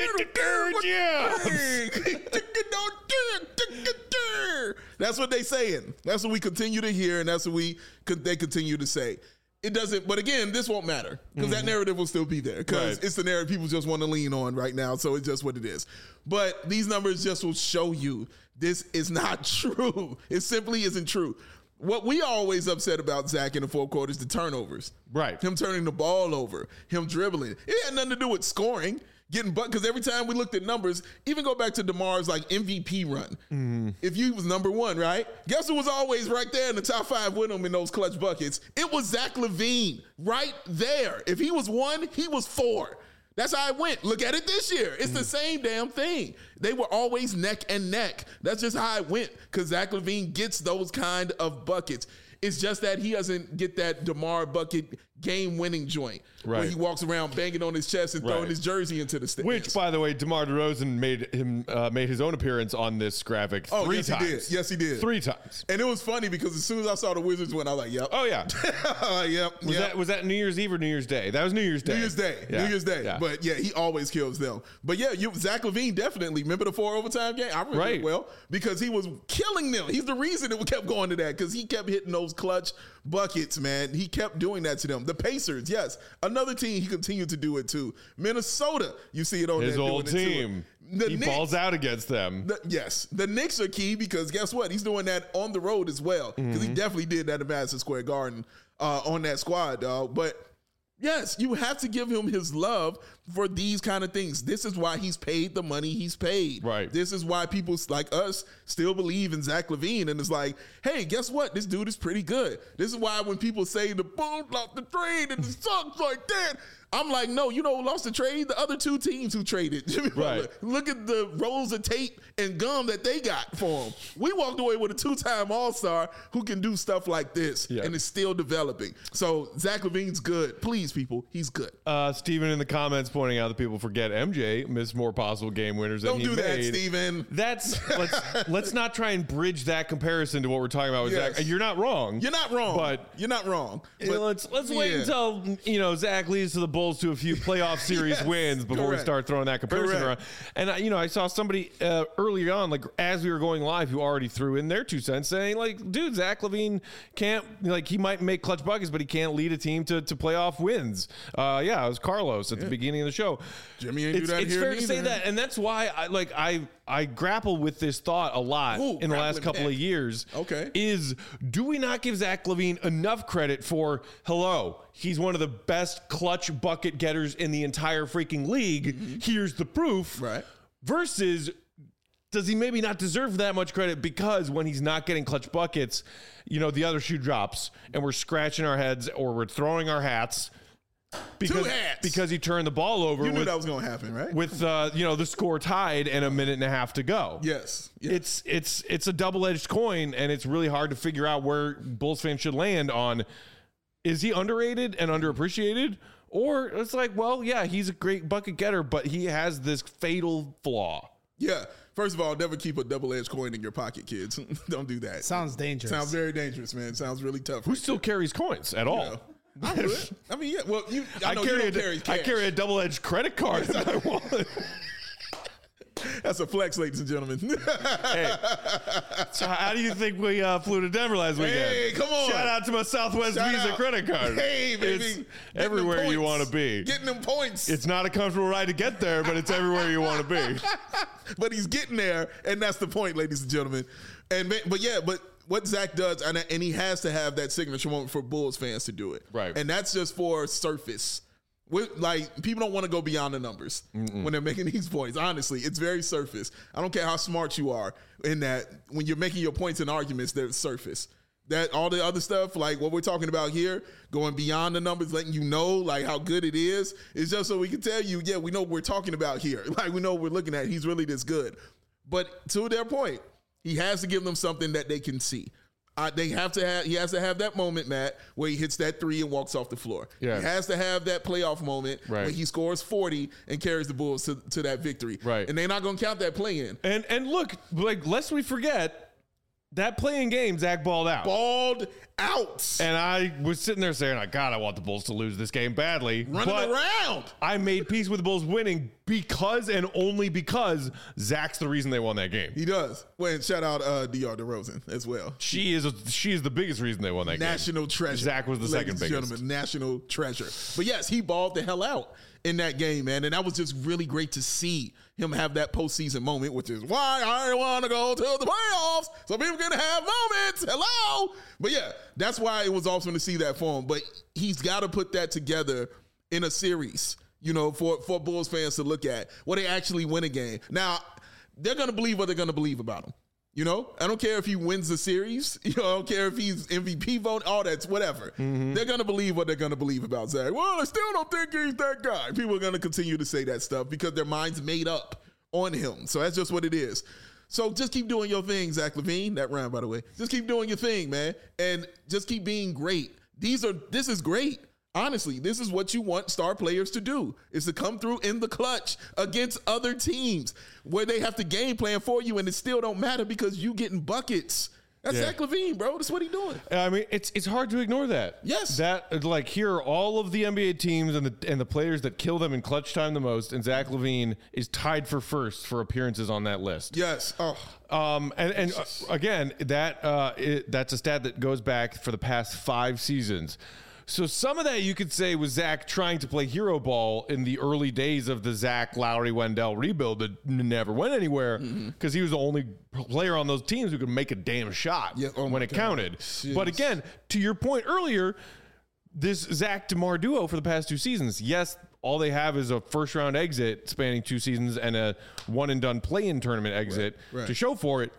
That's what they saying. That's what we continue to hear, and that's what we they continue to say. It doesn't, but again, this won't matter because that narrative will still be there because Right. it's the narrative people just want to lean on right now. So it's just what it is. But these numbers just will show you this is not true. It simply isn't true. What we always upset about Zach in the fourth quarter is the turnovers. Right. Him turning the ball over, him dribbling. It had nothing to do with scoring, getting butt. Because every time we looked at numbers, even go back to DeMar's like M V P run. Mm-hmm. If you was number one, right? Guess who was always right there in the top five with him in those clutch buckets? It was Zach LaVine right there. If he was one, he was four. That's how it went. Look at it this year. It's the same damn thing. They were always neck and neck. That's just how it went because Zach LaVine gets those kind of buckets. It's just that he doesn't get that DeMar bucket game-winning joint where Right. he walks around banging on his chest and throwing Right. his jersey into the stands. Which, by the way, DeMar DeRozan made him uh, made his own appearance on this graphic oh, three yes, times. he did. Yes, he did. Three times. And it was funny because as soon as I saw the Wizards win, I was like, yep. Oh yeah. yep. Was yep. that was that New Year's Eve or New Year's Day? That was New Year's Day. New Year's Day. Yeah. New Year's Day. Yeah. But yeah, he always kills them. But yeah, you Zach LaVine definitely. Remember the four overtime game? I remember Right. it well because he was killing them. He's the reason it kept going to that because he kept hitting those clutch buckets, man. He kept doing that to them. The Pacers, yes. Another team, he continued to do it too. Minnesota, you see it on His there old doing it to team. it. The He Knicks- balls out against them. the, yes, the Knicks are key because guess what? He's doing that on the road as well because he definitely did that at Madison Square Garden uh, on that squad, dog. But yes, you have to give him his love for these kind of things. This is why he's paid the money he's paid. Right. This is why people like us still believe in Zach LaVine and it's like, hey, guess what? This dude is pretty good. This is why when people say the Bulls lost the trade and it sucks like that, I'm like, no, you know who lost the trade? The other two teams who traded. Jimmy Right. Butler. Look at the rolls of tape and gum that they got for him. We walked away with a two-time All-Star who can do stuff like this Yeah. and is still developing. So Zach LaVine's good. Please, people, he's good. Uh, Steven in the comments pointing out that people forget M J missed more possible game winners than Don't he do that, made. Steven. That's let's let's not try and bridge that comparison to what we're talking about with Yes. Zach. You're not wrong. You're not wrong. But you're not wrong. You know, But let's let's wait yeah. until you know Zach leads to the Bulls to a few playoff series Yes, wins before we correct. start throwing that comparison Correct. around. And I, you know, I saw somebody uh, earlier on, like as we were going live, who already threw in their two cents, saying like, "Dude, Zach LaVine can't like he might make clutch buckets, but he can't lead a team to to playoff wins." Uh, yeah, it was Carlos at the beginning of the show. Jimmy ain't do it's, that It's here fair to say neither. that, and that's why I like I I grapple with this thought a lot Ooh, in the last grappling couple of back. years. Okay. Is do we not give Zach LaVine enough credit for, hello, he's one of the best clutch bucket getters in the entire freaking league. Here's the proof. Right. Versus, does he maybe not deserve that much credit because when he's not getting clutch buckets, you know, the other shoe drops and we're scratching our heads or we're throwing our hats because, hats. because he turned the ball over You knew with, that was going to happen, right? with uh, you know, the score tied and a minute and a half to go. yes. yes. It's it's it's a double-edged coin, and it's really hard to figure out where Bulls fans should land on. Is he underrated and underappreciated? Or it's like, well, yeah, he's a great bucket getter, but he has this fatal flaw. Yeah. First of all, never keep a double-edged coin in your pocket, kids. Don't do that. Sounds dangerous. Sounds very dangerous, man. Sounds really tough. Who still carries coins at all? Yeah. I would. I mean, yeah. Well, you. I, I know carry, you a, don't carry I cash. carry a double-edged credit card in my wallet. That's a flex, ladies and gentlemen. Hey, so how do you think we uh, flew to Denver last weekend? Hey, come on. Shout out to my Southwest Shout Visa out. credit card. Hey, baby. It's Getting everywhere them you points. want to be. Getting them points. It's not a comfortable ride to get there, but it's everywhere you want to be. But he's getting there, and that's the point, ladies and gentlemen. And but yeah, but what Zach does, and, and he has to have that signature moment for Bulls fans to do it, Right. And that's just for surface. With, like, people don't want to go beyond the numbers Mm-mm. when they're making these points. Honestly, it's very surface. I don't care how smart you are in that when you're making your points and arguments, they're surface. That all the other stuff, like what we're talking about here, going beyond the numbers, letting you know like how good it is, is just so we can tell you, yeah, we know what we're talking about here. Like we know what we're looking at. He's really this good. But to their point, he has to give them something that they can see. Uh, they have to have. He has to have that moment, Matt, where he hits that three and walks off the floor. Yeah. He has to have that playoff moment Right. where he scores forty and carries the Bulls to, to that victory. Right. And they're not going to count that play in. And and look, like lest we forget, that playing game, Zach balled out. Balled out. And I was sitting there saying, like, God, I want the Bulls to lose this game badly. Running but around. I made peace with the Bulls winning because and only because Zach's the reason they won that game. He does. Well, and shout out uh, D R DeRozan as well. She is a, she is the biggest reason they won that National game. treasure. Zach was the Ladies second and biggest. Gentlemen, national treasure. But yes, he balled the hell out in that game, man. And that was just really great to see him have that postseason moment, which is why I want to go to the playoffs so people can have moments. Hello. But yeah, that's why it was awesome to see that for him. But he's got to put that together in a series, you know, for, for Bulls fans to look at where they actually win a game. Now, they're going to believe what they're going to believe about him. You know, I don't care if he wins the series. You know, I don't care if he's M V P vote, all that's whatever. Mm-hmm. They're going to believe what they're going to believe about Zach. Well, I still don't think he's that guy. People are going to continue to say that stuff because their mind's made up on him. So that's just what it is. So just keep doing your thing, Zach LaVine. That rhyme, by the way. Just keep doing your thing, man. And just keep being great. These are, this is great. Honestly, this is what you want star players to do, is to come through in the clutch against other teams where they have to game plan for you and it still don't matter because you getting buckets. That's Yeah. Zach LaVine, bro. That's what he doing. I mean, it's it's hard to ignore that. Yes. That, like, here are all of the N B A teams and the and the players that kill them in clutch time the most, and Zach LaVine is tied for first for appearances on that list. Yes. Oh, Um, and and uh, again, that uh, it, that's a stat that goes back for the past five seasons. So some of that you could say was Zach trying to play hero ball in the early days of the Zach, Lowry, Wendell rebuild that never went anywhere because mm-hmm. he was the only player on those teams who could make a damn shot yeah, oh when it God. counted. Jeez. But again, to your point earlier, this Zach DeMar duo for the past two seasons, yes, all they have is a first round exit spanning two seasons and a one and done play-in tournament exit right, right. to show for it.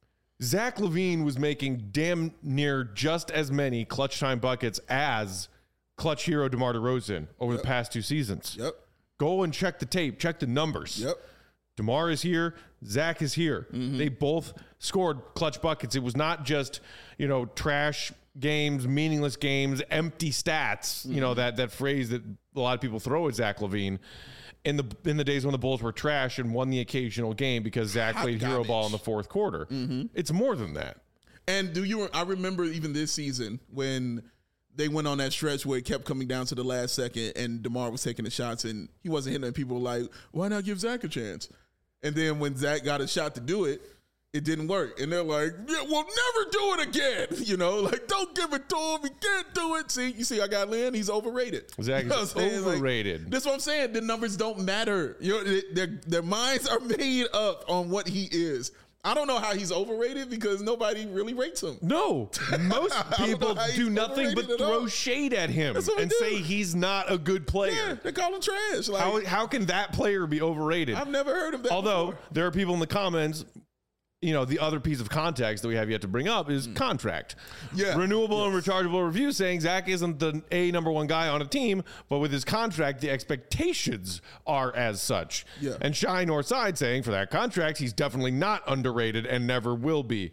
Zach LaVine was making damn near just as many clutch time buckets as clutch hero DeMar DeRozan over yep. the past two seasons. Yep. Go and check the tape, check the numbers. Yep. DeMar is here, Zach is here. Mm-hmm. They both scored clutch buckets. It was not just, you know, trash games, meaningless games, empty stats, mm-hmm. you know, that that phrase that a lot of people throw at Zach LaVine. In the in the days when the Bulls were trash and won the occasional game because Zach Hot played hero garbage. ball in the fourth quarter. Mm-hmm. It's more than that. And do you? I remember even this season when they went on that stretch where it kept coming down to the last second, and DeMar was taking the shots and he wasn't hitting. And people were like, "Why not give Zach a chance?" And then when Zach got a shot to do it, it didn't work. And they're like, yeah, "We'll never do it again." You know, like, don't give it to him. He can't do it. See, you see, I got Lynn. He's overrated. Zach You know is what I'm saying? Like, overrated. that's what I'm saying. The numbers don't matter. You know, their their minds are made up on what he is. I don't know how he's overrated because nobody really rates him. No, most don't know people how he's do nothing but overrated at throw all. shade at him That's what we and do. say he's not a good player. Yeah, they call him trash. Like, How how can that player be overrated? I've never heard of that. Although before. there are people in the comments, you know, the other piece of context that we have yet to bring up is contract. Yeah. Renewable and rechargeable review saying Zach isn't the A number one guy on a team, but with his contract, the expectations are as such. Yeah. And Shy Northside saying for that contract, he's definitely not underrated and never will be.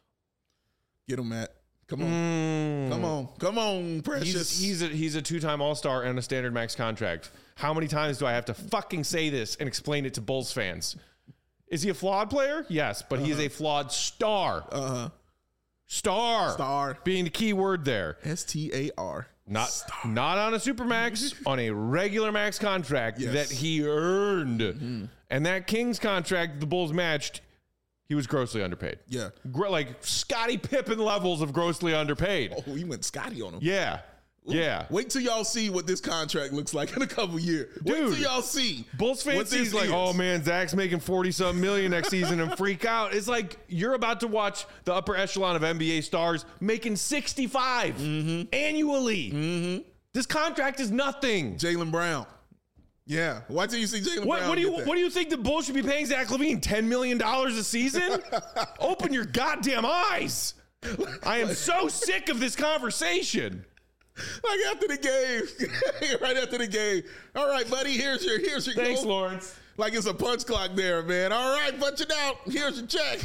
Get him, Matt. Come on. Come on. Come on, Precious. He's, he's a he's a two-time All-Star and a standard max contract. How many times do I have to fucking say this and explain it to Bulls fans? Is he a flawed player? Yes, but uh-huh. he is a flawed star. Uh-huh. Star. Star. Being the key word there. S T A R. Not, not on a Supermax, on a regular max contract Yes. that he earned. Mm-hmm. And that Kings contract the Bulls matched, he was grossly underpaid. Yeah. Gr- like Scottie Pippen levels of grossly underpaid. Oh, he went Scotty on him. Yeah. Yeah. Wait till y'all see what this contract looks like in a couple years. Wait Dude, till y'all see. Bulls what fans this see like, is. oh man, Zach's making forty-something million next season and freak out. It's like you're about to watch the upper echelon of N B A stars making sixty-five Mm-hmm. annually. Mm-hmm. This contract is nothing. Jaylen Brown. Yeah. Why till you see Jaylen What, Brown? what do you get that? what do you think the Bulls should be paying Zach LaVine? ten million dollars a season? Open your goddamn eyes. I am so sick of this conversation. Like after the game, right after the game. All right, buddy, here's your here's your Thanks, goal. Lawrence. Like it's a punch clock there, man. All right, punch it out. Here's your check.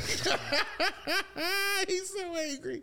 He's so angry.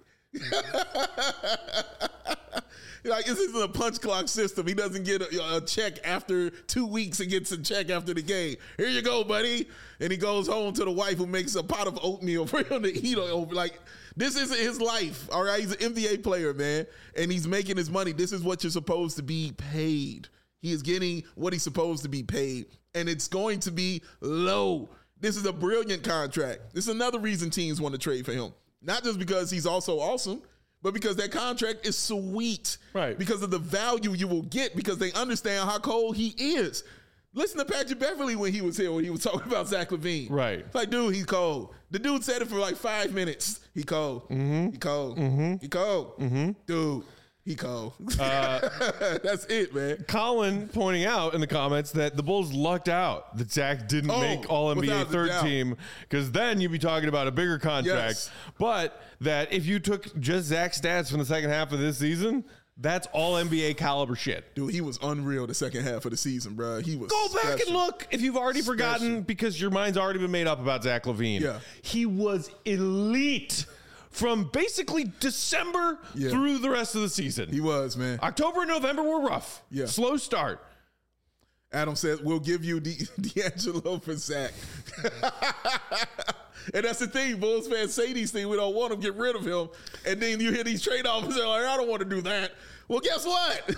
Like this isn't a punch clock system. He doesn't get a, a check after two weeks and gets a check after the game. Here you go, buddy. And he goes home to the wife who makes a pot of oatmeal for him to eat over. Like this isn't his life. All right, he's an N B A player, man, and he's making his money. This is what you're supposed to be paid. He is getting what he's supposed to be paid, and it's going to be low. This is a brilliant contract. This is another reason teams want to trade for him. Not just because he's also awesome, but because that contract is sweet. Right. Because of the value you will get, because they understand how cold he is. Listen to Patrick Beverly when he was here, when he was talking about Zach LaVine. Right. Like, dude, he's cold. The dude said it for like five minutes. He cold. Mm-hmm. He cold. Mm-hmm. He cold. Mm-hmm. Dude, he cold. Uh, That's it, man. Colin pointing out in the comments that the Bulls lucked out that Zach didn't Oh, make All N B A without a third doubt. team, because then you'd be talking about a bigger contract. Yes. But that if you took just Zach's stats from the second half of this season, that's all N B A caliber shit. Dude, he was unreal the second half of the season, bro. He was Go back special. and look if you've already Special. forgotten, because your mind's already been made up about Zach LaVine. Yeah. He was elite from basically December Yeah. through the rest of the season. He was, man. October and November were rough. Yeah. Slow start. Adam says, we'll give you D- D'Angelo for Zach. And that's the thing. Bulls fans say these things. We don't want to get rid of him. And then you hear these trade offers. They're like, I don't want to do that. Well, guess what?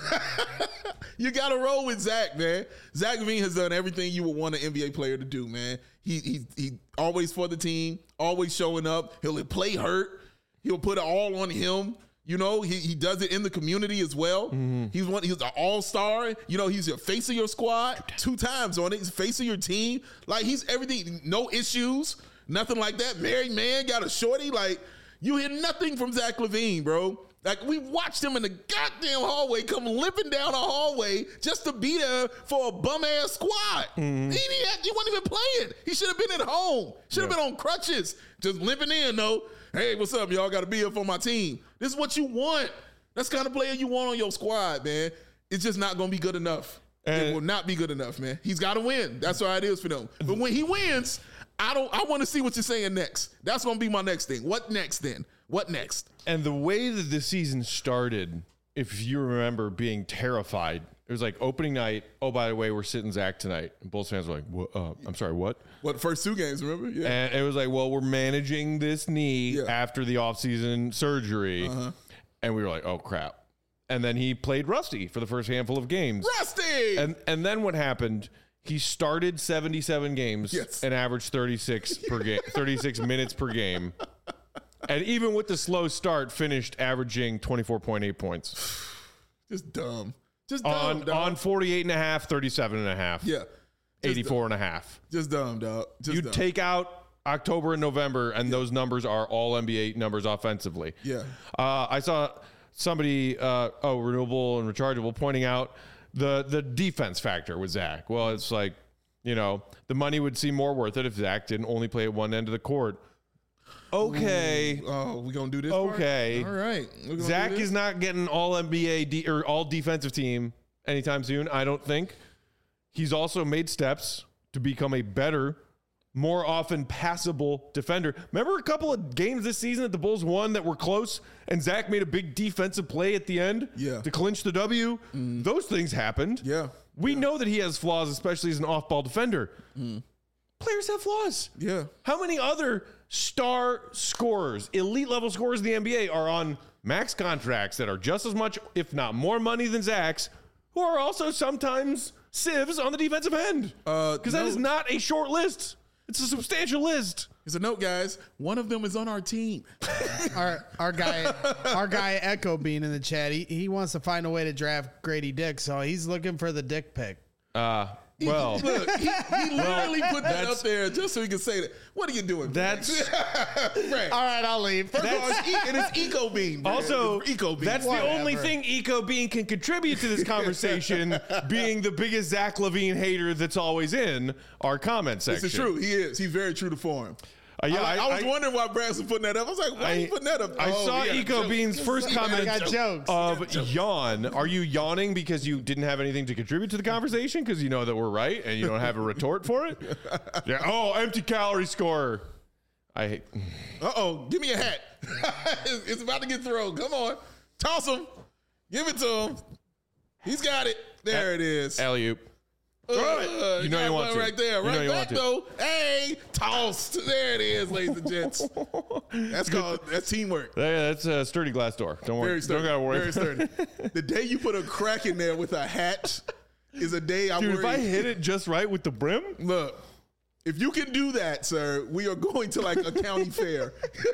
You got to roll with Zach, man. Zach LaVine has done everything you would want an N B A player to do, man. He he he always for the team, always showing up. He'll play hurt. He'll put it all on him. You know, he, he does it in the community as well. Mm-hmm. He's one. He's an all-star. You know, he's your face of your squad two times on it. He's face of your team. Like, he's everything. No issues. Nothing like that. Married man, got a shorty. Like, you hear nothing from Zach LaVine, bro. Like, we watched him in the goddamn hallway come limping down a hallway just to be there for a bum-ass squad. Mm-hmm. He, he, had, he wasn't even playing. He should have been at home. Should have Yeah. been on crutches. Just limping in, though. Hey, what's up? Y'all got to be here for my team. This is what you want. That's the kind of player you want on your squad, man. It's just not going to be good enough. And- it will not be good enough, man. He's got to win. That's how it is for them. But when he wins, I don't. I want to see what you're saying next. That's going to be my next thing. What next then? What next? And the way that the season started, if you remember being terrified, it was like opening night. Oh, by the way, we're sitting Zach tonight. And Bulls fans were like, what, uh, I'm sorry, what? What, first two games, remember? Yeah. And it was like, well, we're managing this knee Yeah. after the offseason surgery. Uh-huh. And we were like, oh, crap. And then he played rusty for the first handful of games. Rusty! And and then what happened? He started seventy-seven games Yes. and averaged thirty-six per game, thirty-six minutes per game. And even with the slow start, finished averaging twenty-four point eight points just dumb. Just dumb, on dog. on forty-eight and a half, thirty-seven and a half, Yeah. Just eighty-four and a half. Just dumb, dog. Just You dumb. take out October and November, and those numbers are all N B A numbers offensively. Yeah. Uh, I saw somebody, uh, oh, renewable and rechargeable, pointing out the the defense factor with Zach. Well, it's like, you know, the money would seem more worth it if Zach didn't only play at one end of the court. Okay. Oh, we gonna do this? Okay. part? All right. We gonna Zach do this? is not getting all N B A de- or all defensive team anytime soon, I don't think. He's also made steps to become a better, more often passable defender. Remember a couple of games this season that the Bulls won that were close and Zach made a big defensive play at the end Yeah. to clinch the W? Those things happened. Yeah. We know that he has flaws, especially as an off-ball defender. Players have flaws. Yeah. How many other star scorers, elite level scorers in the N B A are on max contracts that are just as much, if not more money than Zach's, who are also sometimes civs on the defensive end. Uh, Because that no. is not a short list. It's a substantial list. Here's a note, guys. One of them is on our team. Our our guy our guy Echo Bean in the chat. He he wants to find a way to draft Grady Dick, so he's looking for the dick pic. Uh, well, Look, he, he literally put that that's- up there just so he could say that. What are you doing? That's- right. All right, I'll leave. First of all, it's, e- it is Eco Bean. man. also, It's Eco Bean. that's the Whatever. only thing Eco Bean can contribute to this conversation, being the biggest Zach LaVine hater that's always in our comment section. This is true. He is. He's very true to form. Uh, yeah, I, I, I- was I- wondering why Brass was putting that up. I was like, why are you putting that up? I Oh, saw yeah, Eco joke. Bean's first I comment got jokes. of yawn. Are you yawning because you didn't have anything to contribute to the conversation because you know that we're right and you don't have a retort for it? Yeah. Oh, empty calorie score. I hate. Uh-oh. Give me a hat. it's, it's about to get thrown. Come on. Toss him. Give it to him. He's got it. There it is. Alley-oop. Uh, You know got you want one to. right there. You know Right you back, want to. though. Hey, tossed. There it is, ladies and gents. That's called, that's teamwork. Yeah, that's a sturdy glass door. Don't worry. Very sturdy. Don't gotta worry. Very sturdy. The day you put a crack in there with a hat is a day I Dude, worry. if I hit it just right with the brim, Look, if you can do that, sir, we are going to like a county fair.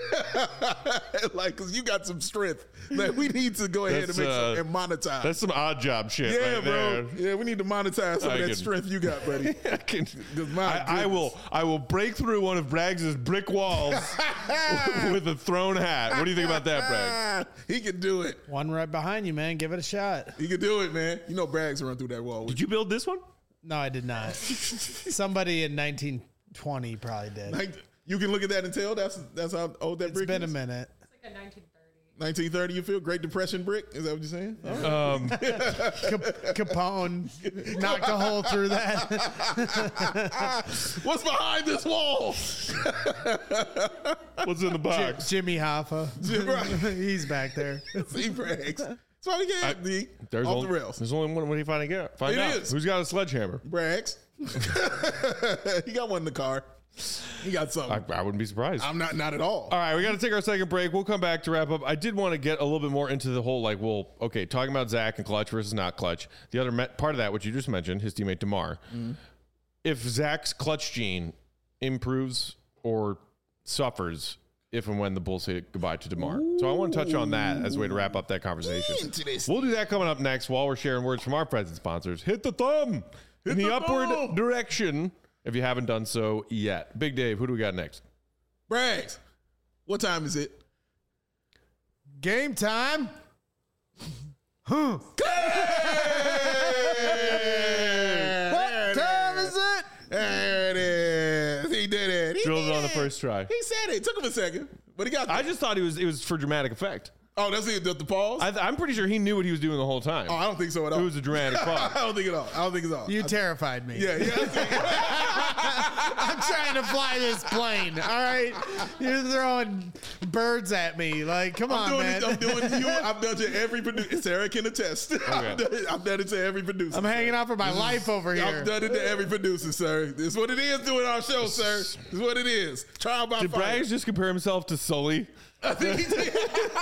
Like, because you got some strength. Like, we need to go ahead and That's, make uh, some and monetize. that's some odd job shit. yeah, right bro. there. Yeah, we need to monetize some I of that can- strength you got, buddy. I, can, my I, I will. I will break through one of Braggs' brick walls with a thrown hat. What do you think about that, Braggs? Ah, he can do it. One right behind you, man. Give it a shot. He can do it, man. You know Braggs will run through that wall. Did you build this one? No, I did not. Somebody in nineteen twenty probably did. Like, you can look at that and tell that's that's how old that It's brick been a is. minute. It's like a nineteen thirty. nineteen thirty, you feel? Great Depression brick? Is that what you're saying? All right. Um, Cap- Capone knocked a hole through that. What's behind this wall? what's in the box? Jimmy Hoffa. Jim- right. He's back there. See, Braggs. That's all we got, D. There's Off only, the rails. There's only one. What do you find out? Find It out. is. Who's got a sledgehammer? Braggs. He got one in the car. He got something. I, I wouldn't be surprised. I'm not not at all. All right, we got to take our second break. We'll come back to wrap up. I did want to get a little bit more into the whole, like, well, okay, talking about Zach and clutch versus not clutch. The other met, part of that, which you just mentioned, his teammate DeMar. Mm-hmm. If Zach's clutch gene improves or suffers if and when the Bulls say goodbye to DeMar. So I want to touch on that as a way to wrap up that conversation. Interesting. We'll do that coming up next while we're sharing words from our present sponsors. Hit the thumb in the, the upward thumb. direction if you haven't done so yet. Big Dave, who do we got next? Braggs, what time is it? Game time. What Time is it? There it is. He did it. He Drilled it did on the first try. He said it. It took him a second, but he got there. I just thought it was it was for dramatic effect. Oh, that's it. The, the pause? I, I'm pretty sure he knew what he was doing the whole time. oh, I don't think so at all. It was a dramatic pause. I don't think at all. I don't think it's all. You I- terrified me. yeah, yeah. I'm trying to fly this plane. All right, you're throwing birds at me. Like, come I'm on, doing man. it. I'm doing it to you. I've done it to every producer. Sarah can attest. I've, done it, I've done it to every producer. I'm hanging out for my life over here. I've done it to every producer, sir. This is what it is doing our show, sir. This is what it is. Trial by Did fire. Braggs just compare himself to Sully? I think he did.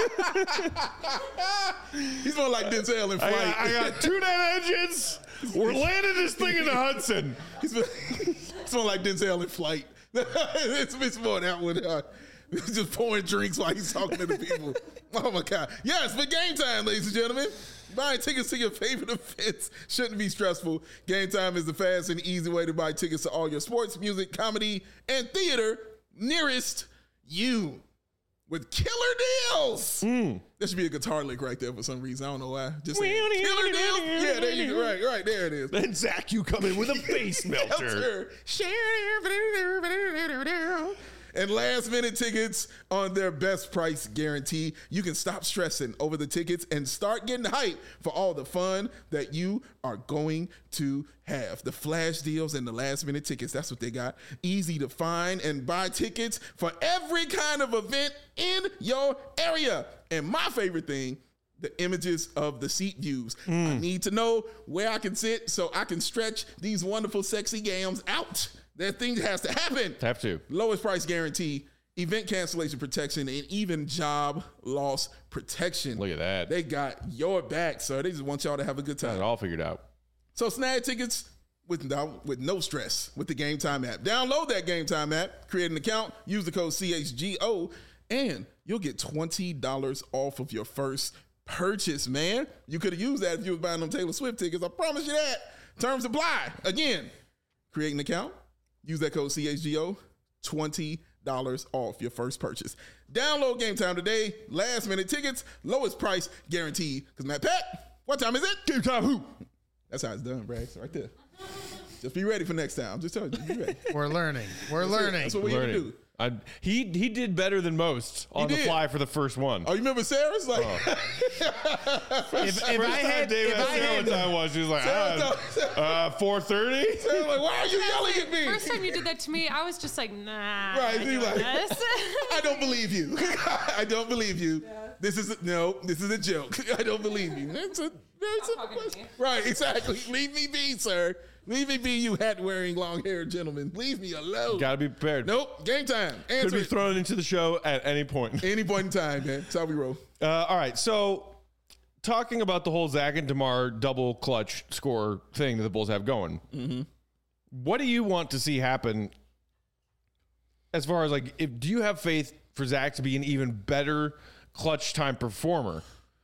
He's more like Denzel in I flight. got, I got two net engines. We're landing this thing in the Hudson. He's it's more like Denzel in flight. it's, it's more that one. Uh, just pouring drinks while he's talking to the people. Oh my God. Yes, but game time, ladies and gentlemen. Buying tickets to your favorite events shouldn't be stressful. Game time is the fast and easy way to buy tickets to all your sports, music, comedy, and theater nearest you. With killer deals. That should be a guitar lick right there for some reason. I don't know why. Just saying. Killer deals. Yeah, there you go. Right, right. There it is. Then Zach, you come in with a face melter. And last minute tickets on their best price guarantee. You can stop stressing over the tickets and start getting hyped for all the fun that you are going to have. The flash deals and the last minute tickets, that's what they got. Easy to find and buy tickets for every kind of event in your area. And my favorite thing, the images of the seat views. I need to know where I can sit so I can stretch these wonderful, sexy gams out. That thing has to happen. Have to. Lowest price guarantee event cancellation protection, and even job loss protection. Look at that. They got your back, sir. They just want y'all to have a good Got time. it all figured out. So snag tickets with no, with no stress with the Game Time app. Download that Game Time app, create an account, use the code C H G O, and you'll get twenty dollars off of your first purchase, man. You could have used that if you was buying them Taylor Swift tickets. I promise you that. Terms apply. Again, create an account, use that code C H G O, twenty dollars off your first purchase. Download Game Time today. Last minute tickets, lowest price guaranteed. Because Matt Pat, what time is it? Game Time who? That's how it's done, Braggs, right there. Just be ready for next time. I'm just telling you, be ready. We're learning. We're That's it. learning. That's what we have to do. I, he he did better than most on the did. fly for the first one. Oh, you remember Sarah's? Like, if, if I First time had, Dave if asked I Sarah had, what time it was, she was like, Sarah ah, uh, four thirty? Sarah's like, why are you yelling at me? First time you did that to me, I was just like, nah. Right, I she's doing like, this. I don't believe you. I don't believe you. This is a, no, this is a joke. I don't believe you. That's a, that's a talking to question. me. Right, exactly. Leave me be, sir. Leave me be, you hat-wearing, long-haired gentleman. Leave me alone. Gotta be prepared. Nope, game time. Could Answer be it. thrown into the show at any point. Any point in time, man. That's how we roll. Uh, all right, so talking about the whole Zach and DeMar double clutch score thing that the Bulls have going, Mm-hmm. what do you want to see happen as far as like, if do you have faith for Zach to be an even better clutch time performer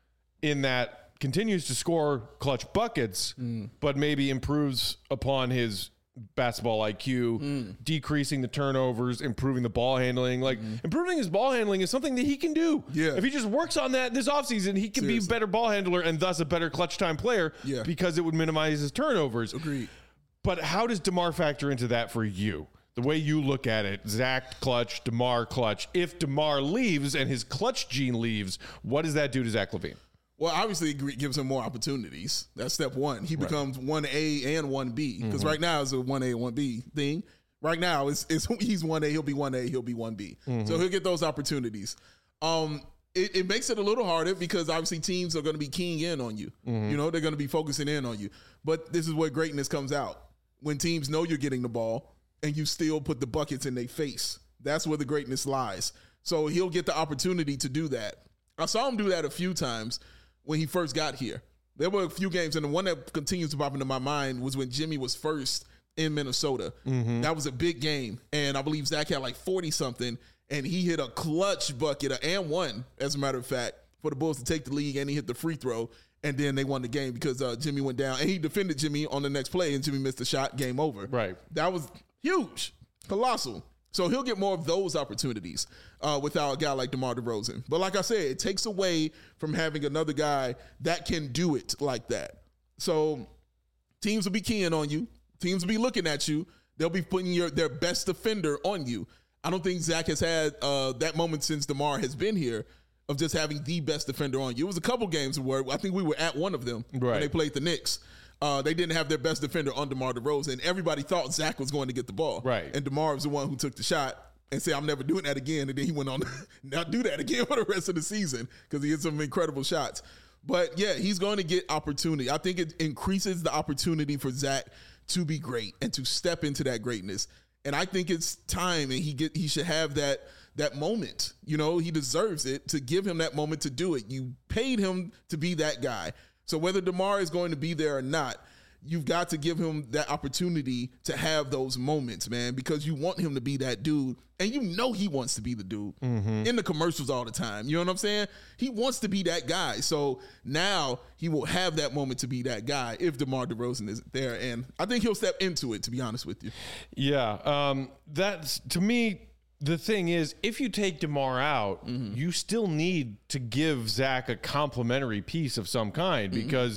in that continues to score clutch buckets, Mm. but maybe improves upon his basketball I Q, Mm. decreasing the turnovers, improving the ball handling. Like improving his ball handling is something that he can do. Mm-hmm. Yeah. If he just works on that this offseason, he can be Seriously. a better ball handler and thus a better clutch time player Yeah. because it would minimize his turnovers. Agreed. But how does DeMar factor into that for you? The way you look at it, Zach clutch, DeMar clutch. If DeMar leaves and his clutch gene leaves, what does that do to Zach LaVine? Well, obviously, it gives him more opportunities. That's step one. He becomes one A and one B. Because right now, it's a one A and one B thing. Right now, it's, it's he's one A, he'll be one A, he'll be one B. So he'll get those opportunities. Um, it, it makes it a little harder because obviously teams are going to be keying in on you. You know, they're going to be focusing in on you. But this is where greatness comes out. When teams know you're getting the ball and you still put the buckets in their face. That's where the greatness lies. So he'll get the opportunity to do that. I saw him do that a few times when he first got here. There were a few games, and the one that continues to pop into my mind was when Jimmy was first in Minnesota. That was a big game, and I believe Zach had like forty-something, and he hit a clutch bucket, and one, as a matter of fact, for the Bulls to take the lead, and he hit the free throw, and then they won the game because uh, Jimmy went down, and he defended Jimmy on the next play, and Jimmy missed the shot, game over. Right. That was huge, colossal. So he'll get more of those opportunities uh, without a guy like DeMar DeRozan. But like I said, it takes away from having another guy that can do it like that. So teams will be keying on you. Teams will be looking at you. They'll be putting your their best defender on you. I don't think Zach has had uh, that moment since DeMar has been here of just having the best defender on you. It was a couple games where I think we were at one of them Right. when they played the Knicks. Uh, they didn't have their best defender on DeMar DeRozan. Everybody thought Zach was going to get the ball. Right. And DeMar was the one who took the shot and said, I'm never doing that again. And then he went on to not do that again for the rest of the season because he hit some incredible shots. But, yeah, he's going to get opportunity. I think it increases the opportunity for Zach to be great and to step into that greatness. And I think it's time, and he get he should have that that moment. You know, he deserves it to give him that moment to do it. You paid him to be that guy. So whether DeMar is going to be there or not, you've got to give him that opportunity to have those moments, man, because you want him to be that dude. And you know he wants to be the dude in the commercials all the time. You know what I'm saying? He wants to be that guy. So now he will have that moment to be that guy if DeMar DeRozan isn't there. And I think he'll step into it, to be honest with you. Yeah, um, that's to me. The thing is, if you take DeMar out, Mm-hmm. you still need to give Zach a complimentary piece of some kind because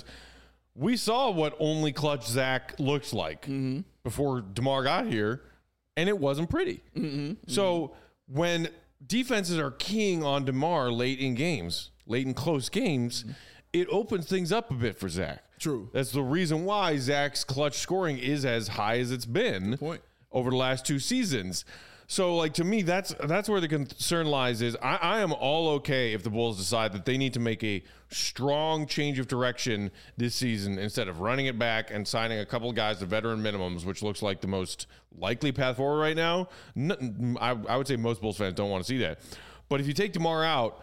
we saw what only clutch Zach looks like Mm-hmm. before DeMar got here, and it wasn't pretty. Mm-hmm. So when defenses are keying on DeMar late in games, late in close games, it opens things up a bit for Zach. True. That's the reason why Zach's clutch scoring is as high as it's been point. over the last two seasons. So, like, to me, that's that's where the concern lies is I, I am all okay if the Bulls decide that they need to make a strong change of direction this season instead of running it back and signing a couple of guys to veteran minimums, which looks like the most likely path forward right now. No, I, I would say most Bulls fans don't want to see that. But if you take DeMar out,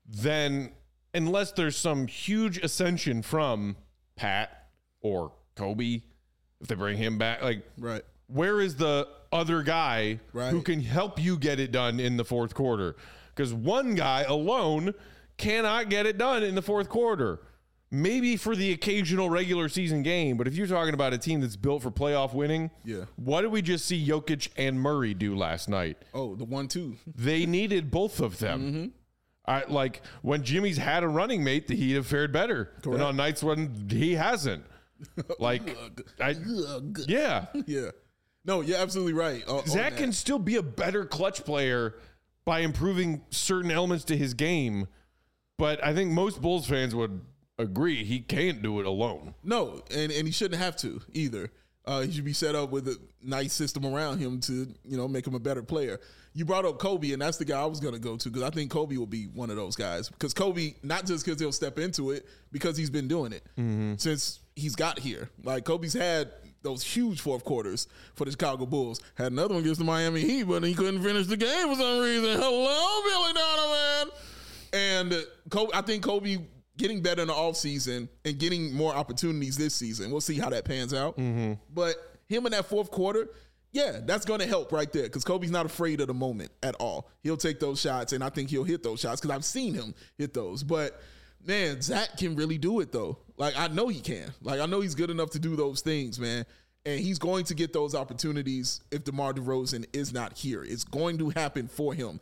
then unless there's some huge ascension from Pat or Kobe, if they bring him back, like, Right. where is the other guy Right. who can help you get it done in the fourth quarter? Because one guy alone cannot get it done in the fourth quarter. Maybe for the occasional regular season game, but if you're talking about a team that's built for playoff winning, Yeah. what did we just see Jokic and Murray do last night? Oh, the one two. They needed both of them. Mm-hmm. I, like when Jimmy's had a running mate, the Heat have fared better than on nights when he hasn't. Like, I, yeah, Yeah. No, you're absolutely right. Uh, on Zach that. can still be a better clutch player by improving certain elements to his game, but I think most Bulls fans would agree he can't do it alone. No, and, and he shouldn't have to either. Uh, he should be set up with a nice system around him to, you know, make him a better player. You brought up Kobe, and that's the guy I was going to go to because I think Kobe will be one of those guys. Because Kobe, not just because he'll step into it, because he's been doing it Mm-hmm. since he's got here. Like, Kobe's had those huge fourth quarters for the Chicago Bulls. Had another one against the Miami Heat, but he couldn't finish the game for some reason. Hello, Billy Donovan. And Kobe, I think Kobe getting better in the offseason and getting more opportunities this season. We'll see how that pans out. Mm-hmm. But him in that fourth quarter, yeah, that's going to help right there because Kobe's not afraid of the moment at all. He'll take those shots, and I think he'll hit those shots because I've seen him hit those. But, man, Zach can really do it, though. Like, I know he can. Like, I know he's good enough to do those things, man. And he's going to get those opportunities if DeMar DeRozan is not here. It's going to happen for him.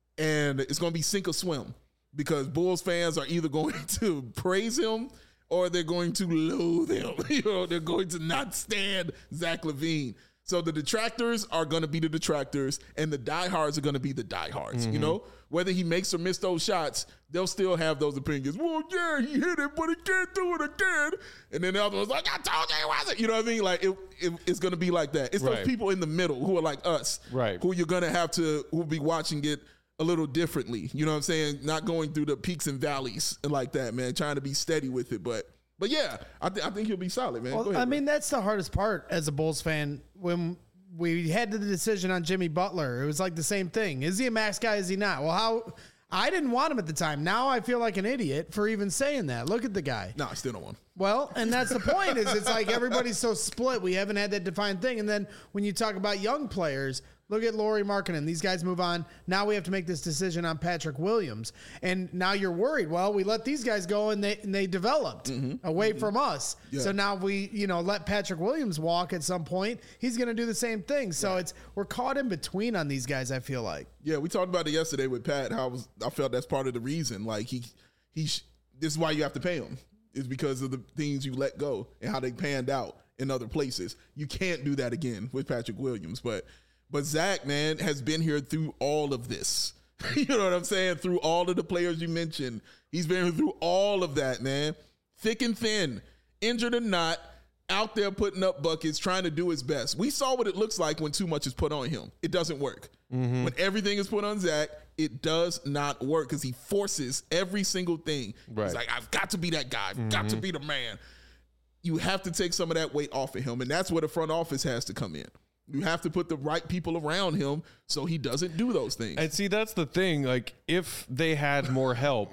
And it's going to be sink or swim. Because Bulls fans are either going to praise him or they're going to loathe him. You know, they're going to not stand Zach LaVine. So the detractors are going to be the detractors, and the diehards are going to be the diehards. Mm-hmm. You know, whether he makes or miss those shots, they'll still have those opinions. Well, yeah, he hit it, but he can't do it again. And then the other one's like, I told you he wasn't. You know what I mean? Like it, it, it's going to be like that. It's right. those people in the middle who are like us, right? Who you're going to have to, who'll be watching it a little differently, you know what I'm saying? Not going through the peaks and valleys and like that, man. Trying to be steady with it, but but yeah, I, th- I think he'll be solid, man. Well, Go ahead, I mean, bro. that's the hardest part as a Bulls fan. When we had the decision on Jimmy Butler, it was like the same thing. Is he a max guy? Is he not? Well, how? I didn't want him at the time. Now I feel like an idiot for even saying that. Look at the guy. No, I still don't want him. Well, and that's the point. Is it's like everybody's so split. We haven't had that defined thing. And then when you talk about young players, look at Lauri Markkanen. These guys move on. Now we have to make this decision on Patrick Williams. And now you're worried. Well, we let these guys go and they and they developed mm-hmm. away mm-hmm. from us. Yeah. So now we, you know, let Patrick Williams walk at some point. He's going to do the same thing. So right. it's we're caught in between on these guys, I feel like. Yeah, we talked about it yesterday with Pat. How I, was, I felt that's part of the reason. Like he he this is why you have to pay him. Is because of the things you let go and how they panned out in other places. You can't do that again with Patrick Williams. But But Zach, man, has been here through all of this. You know what I'm saying? Through all of the players you mentioned. He's been here through all of that, man. Thick and thin, injured or not, out there putting up buckets, trying to do his best. We saw what it looks like when too much is put on him. It doesn't work. Mm-hmm. When everything is put on Zach, it does not work because he forces every single thing. Right. He's like, I've got to be that guy. I've mm-hmm. got to be the man. You have to take some of that weight off of him, and that's where the front office has to come in. You have to put the right people around him so he doesn't do those things. And see, that's the thing. Like, if they had more help,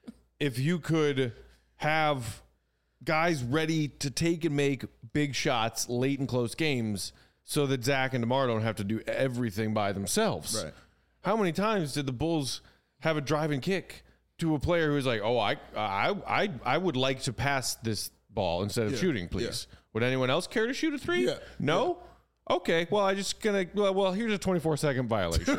if you could have guys ready to take and make big shots late in close games so that Zach and DeMar don't have to do everything by themselves. Right. How many times did the Bulls have a driving kick to a player who was like, oh, I I I, I would like to pass this ball instead of yeah. shooting, please. Yeah. Would anyone else care to shoot a three? Yeah. No? Yeah. Okay, well, I just gonna well, well, here's a twenty-four second violation.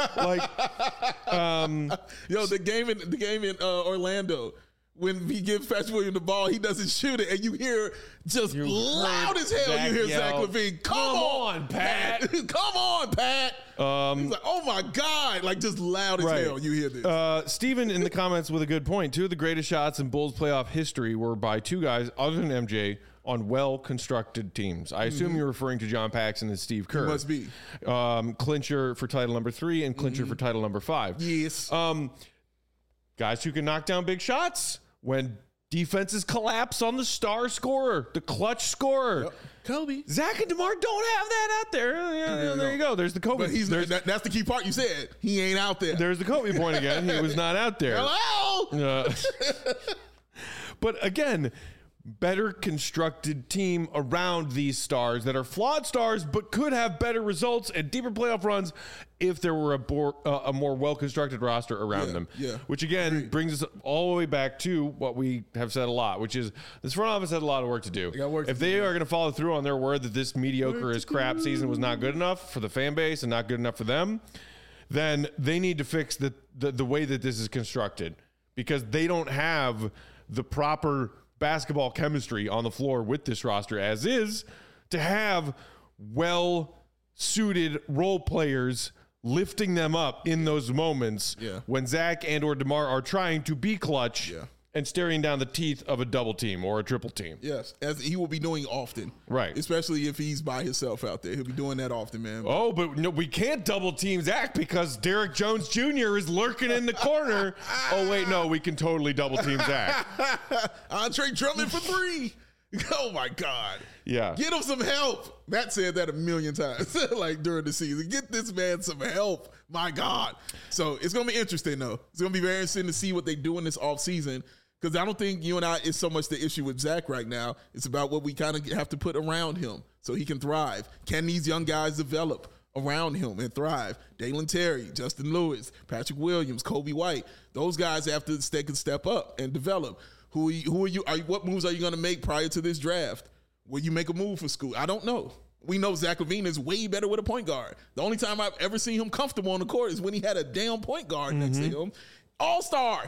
like, um, yo, the game in the game in uh, Orlando, when he gives Patrick Williams the ball, he doesn't shoot it, and you hear just you loud as hell. Zach you hear yell, Zach LaVine, come, come on, on, Pat, come on, Pat. Um, He's like, oh my God, like just loud as right. hell. You hear this. Uh, Steven in the comments with a good point. Two of the greatest shots in Bulls playoff history were by two guys other than M J on well-constructed teams. I assume mm-hmm. you're referring to John Paxson and Steve Kerr. It must be. Um, clincher for title number three and clincher mm-hmm. for title number five. Yes. Um, guys who can knock down big shots when defenses collapse on the star scorer, the clutch scorer. Yep. Kobe. Zach and DeMar don't have that out there. Yeah, yeah, there you go. There's the Kobe. But he's that, that's the key part you said. He ain't out there. There's the Kobe point again. He was not out there. Hello. Uh, but again, better constructed team around these stars that are flawed stars, but could have better results and deeper playoff runs if there were a, bo- uh, a more well-constructed roster around yeah, them. Yeah. Which again Great. brings us all the way back to what we have said a lot, which is this front office had a lot of work to do. They work if to they do. are going to follow through on their word that this mediocre as crap season was not good enough for the fan base and not good enough for them, then they need to fix the the, the way that this is constructed, because they don't have the proper basketball chemistry on the floor with this roster as is to have well-suited role players lifting them up in those moments yeah. when Zach and or DeMar are trying to be clutch yeah. and staring down the teeth of a double team or a triple team. Yes, as he will be doing often. Right. Especially if he's by himself out there. He'll be doing that often, man. Oh, but no, we can't double team Zach because Derrick Jones Junior is lurking in the corner. Oh, wait, no, we can totally double team Zach. Andre Drummond for three. Oh, my God. Yeah. Get him some help. Matt said that a million times, like during the season. Get this man some help. My God. So it's going to be interesting, though. It's going to be very interesting to see what they do in this offseason, because I don't think you and I is so much the issue with Zach right now. It's about what we kind of have to put around him so he can thrive. Can these young guys develop around him and thrive? Dalen Terry, Justin Lewis, Patrick Williams, Kobe White. Those guys have to they can step up and develop. Who are you, who are you, are you what moves are you going to make prior to this draft? Will you make a move for school? I don't know. We know Zach LaVine is way better with a point guard. The only time I've ever seen him comfortable on the court is when he had a damn point guard mm-hmm. next to him. All-star.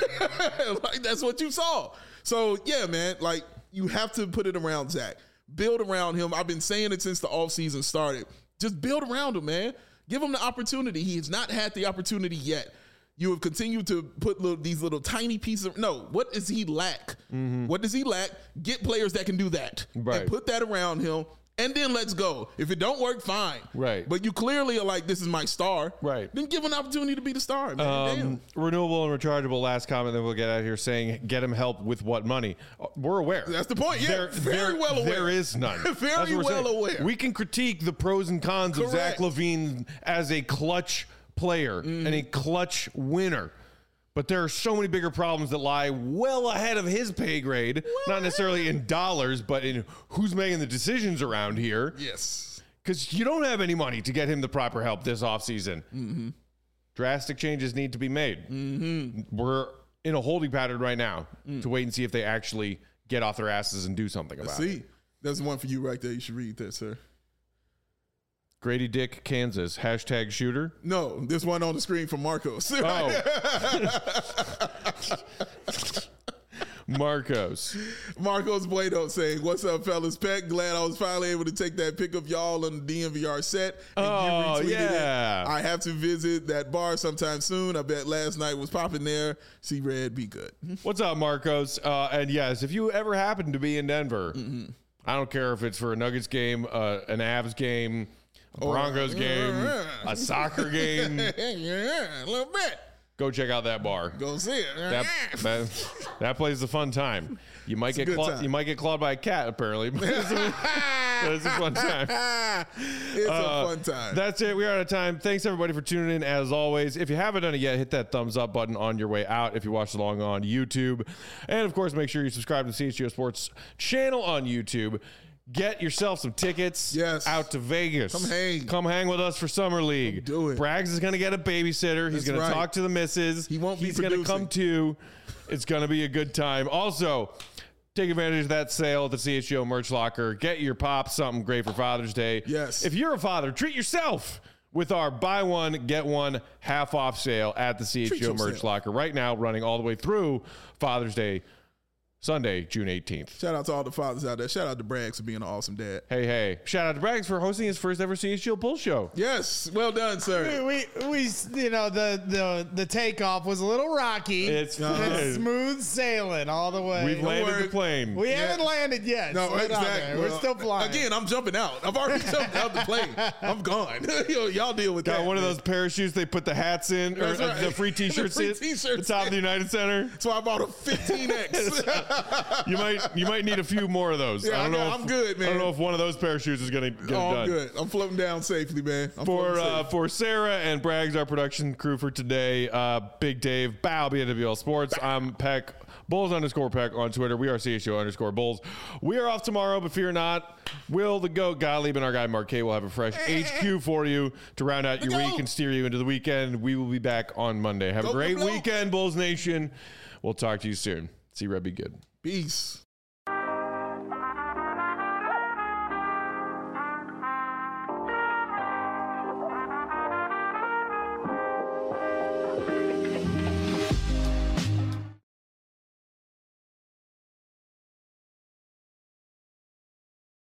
Like, that's what you saw. So, yeah, man, like, you have to put it around Zach. Build around him. I've been saying it since the offseason started. Just build around him, man. Give him the opportunity. He has not had the opportunity yet. You have continued to put little, these little tiny pieces of, no, what does he lack? Mm-hmm. What does he lack? Get players that can do that. Right. And put that around him, and then let's go. If it don't work, fine. Right. But you clearly are like, this is my star. Right. Then give him an opportunity to be the star, man. Um, Damn. renewable and rechargeable, last comment, then we'll get out of here saying, get him help with what money? We're aware. That's the point. Yeah, there, very there, well aware. There is none. Very well saying. aware. We can critique the pros and cons Correct. of Zach LaVine as a clutch player mm. and a clutch winner. But there are so many bigger problems that lie well ahead of his pay grade, what? Not necessarily in dollars, but in who's making the decisions around here. Yes. Because you don't have any money to get him the proper help this offseason. Mm-hmm. Drastic changes need to be made. Mm-hmm. We're in a holding pattern right now mm. to wait and see if they actually get off their asses and do something about Let's see. it. There's one for you right there. You should read that, sir. Grady Dick, Kansas. Hashtag shooter. No, this one on the screen from Marcos. Oh. Marcos. Marcos Bueno saying, what's up, fellas? Peck, glad I was finally able to take that pic of y'all on the D M V R set. And oh, you retweeted yeah. it. I have to visit that bar sometime soon. I bet last night was popping there. See Red, be good. What's up, Marcos? Uh, and yes, if you ever happen to be in Denver, mm-hmm. I don't care if it's for a Nuggets game, uh, an Avs game, a Broncos oh, game, yeah. a soccer game. Yeah, a little bit. Go check out that bar. Go see it. That, that, that place is a fun time. You might it's get clawed, you might get clawed by a cat, apparently. But it's, a, but it's a fun time. It's uh, a fun time. That's it. We are out of time. Thanks everybody for tuning in. As always, if you haven't done it yet, hit that thumbs up button on your way out. If you watched along on YouTube, and of course, make sure you subscribe to the C H G O Sports channel on YouTube. Get yourself some tickets yes. out to Vegas. Come hang. Come hang with us for Summer League. Come do it. Braggs is going to get a babysitter. He's going right. to talk to the missus. He won't be He's going to come too. It's going to be a good time. Also, take advantage of that sale at the C H G O Merch Locker. Get your pop something great for Father's Day. Yes. If you're a father, treat yourself with our buy one, get one half off sale at the C H G O Merch Locker right now, running all the way through Father's Day Sunday, June eighteenth. Shout out to all the fathers out there. Shout out to Braggs for being an awesome dad. Hey, hey. Shout out to Braggs for hosting his first ever C H G O Bull show. Yes, well done, sir. We, we, you know, the the the takeoff was a little rocky. It's It's fine. smooth sailing all the way. We've landed worry. the plane. we Yeah. haven't landed yet. No, Slow down exactly. there. We're Well, still flying. Again, I'm jumping out. I've already jumped out the plane. I'm gone. Yo, y'all deal with Got that. one of man. those parachutes they put the hats in, or That's uh, right. the free t-shirts The free in, t-shirts the top of the in. United Center. So I bought a fifteen X. You might you might need a few more of those. Yeah, I don't I know. got- if, I'm good, man. I don't know if one of those parachutes is going to get it Oh, done. I'm good. I'm floating down safely, man. I'm For floating uh, safe. for Sarah and Braggs, our production crew for today, uh, Big Dave, Bow, B N W L Sports. I'm Peck, Bulls underscore Peck on Twitter. We are C H O underscore Bulls. We are off tomorrow, but fear not. Will the GOAT Gottlieb and our guy Mark K will have a fresh H Q for you to round out your The week GOAT. and steer you into the weekend. We will be back on Monday. Have a Go great Blue. weekend, Bulls Nation. We'll talk to you soon. See Red be good. Peace.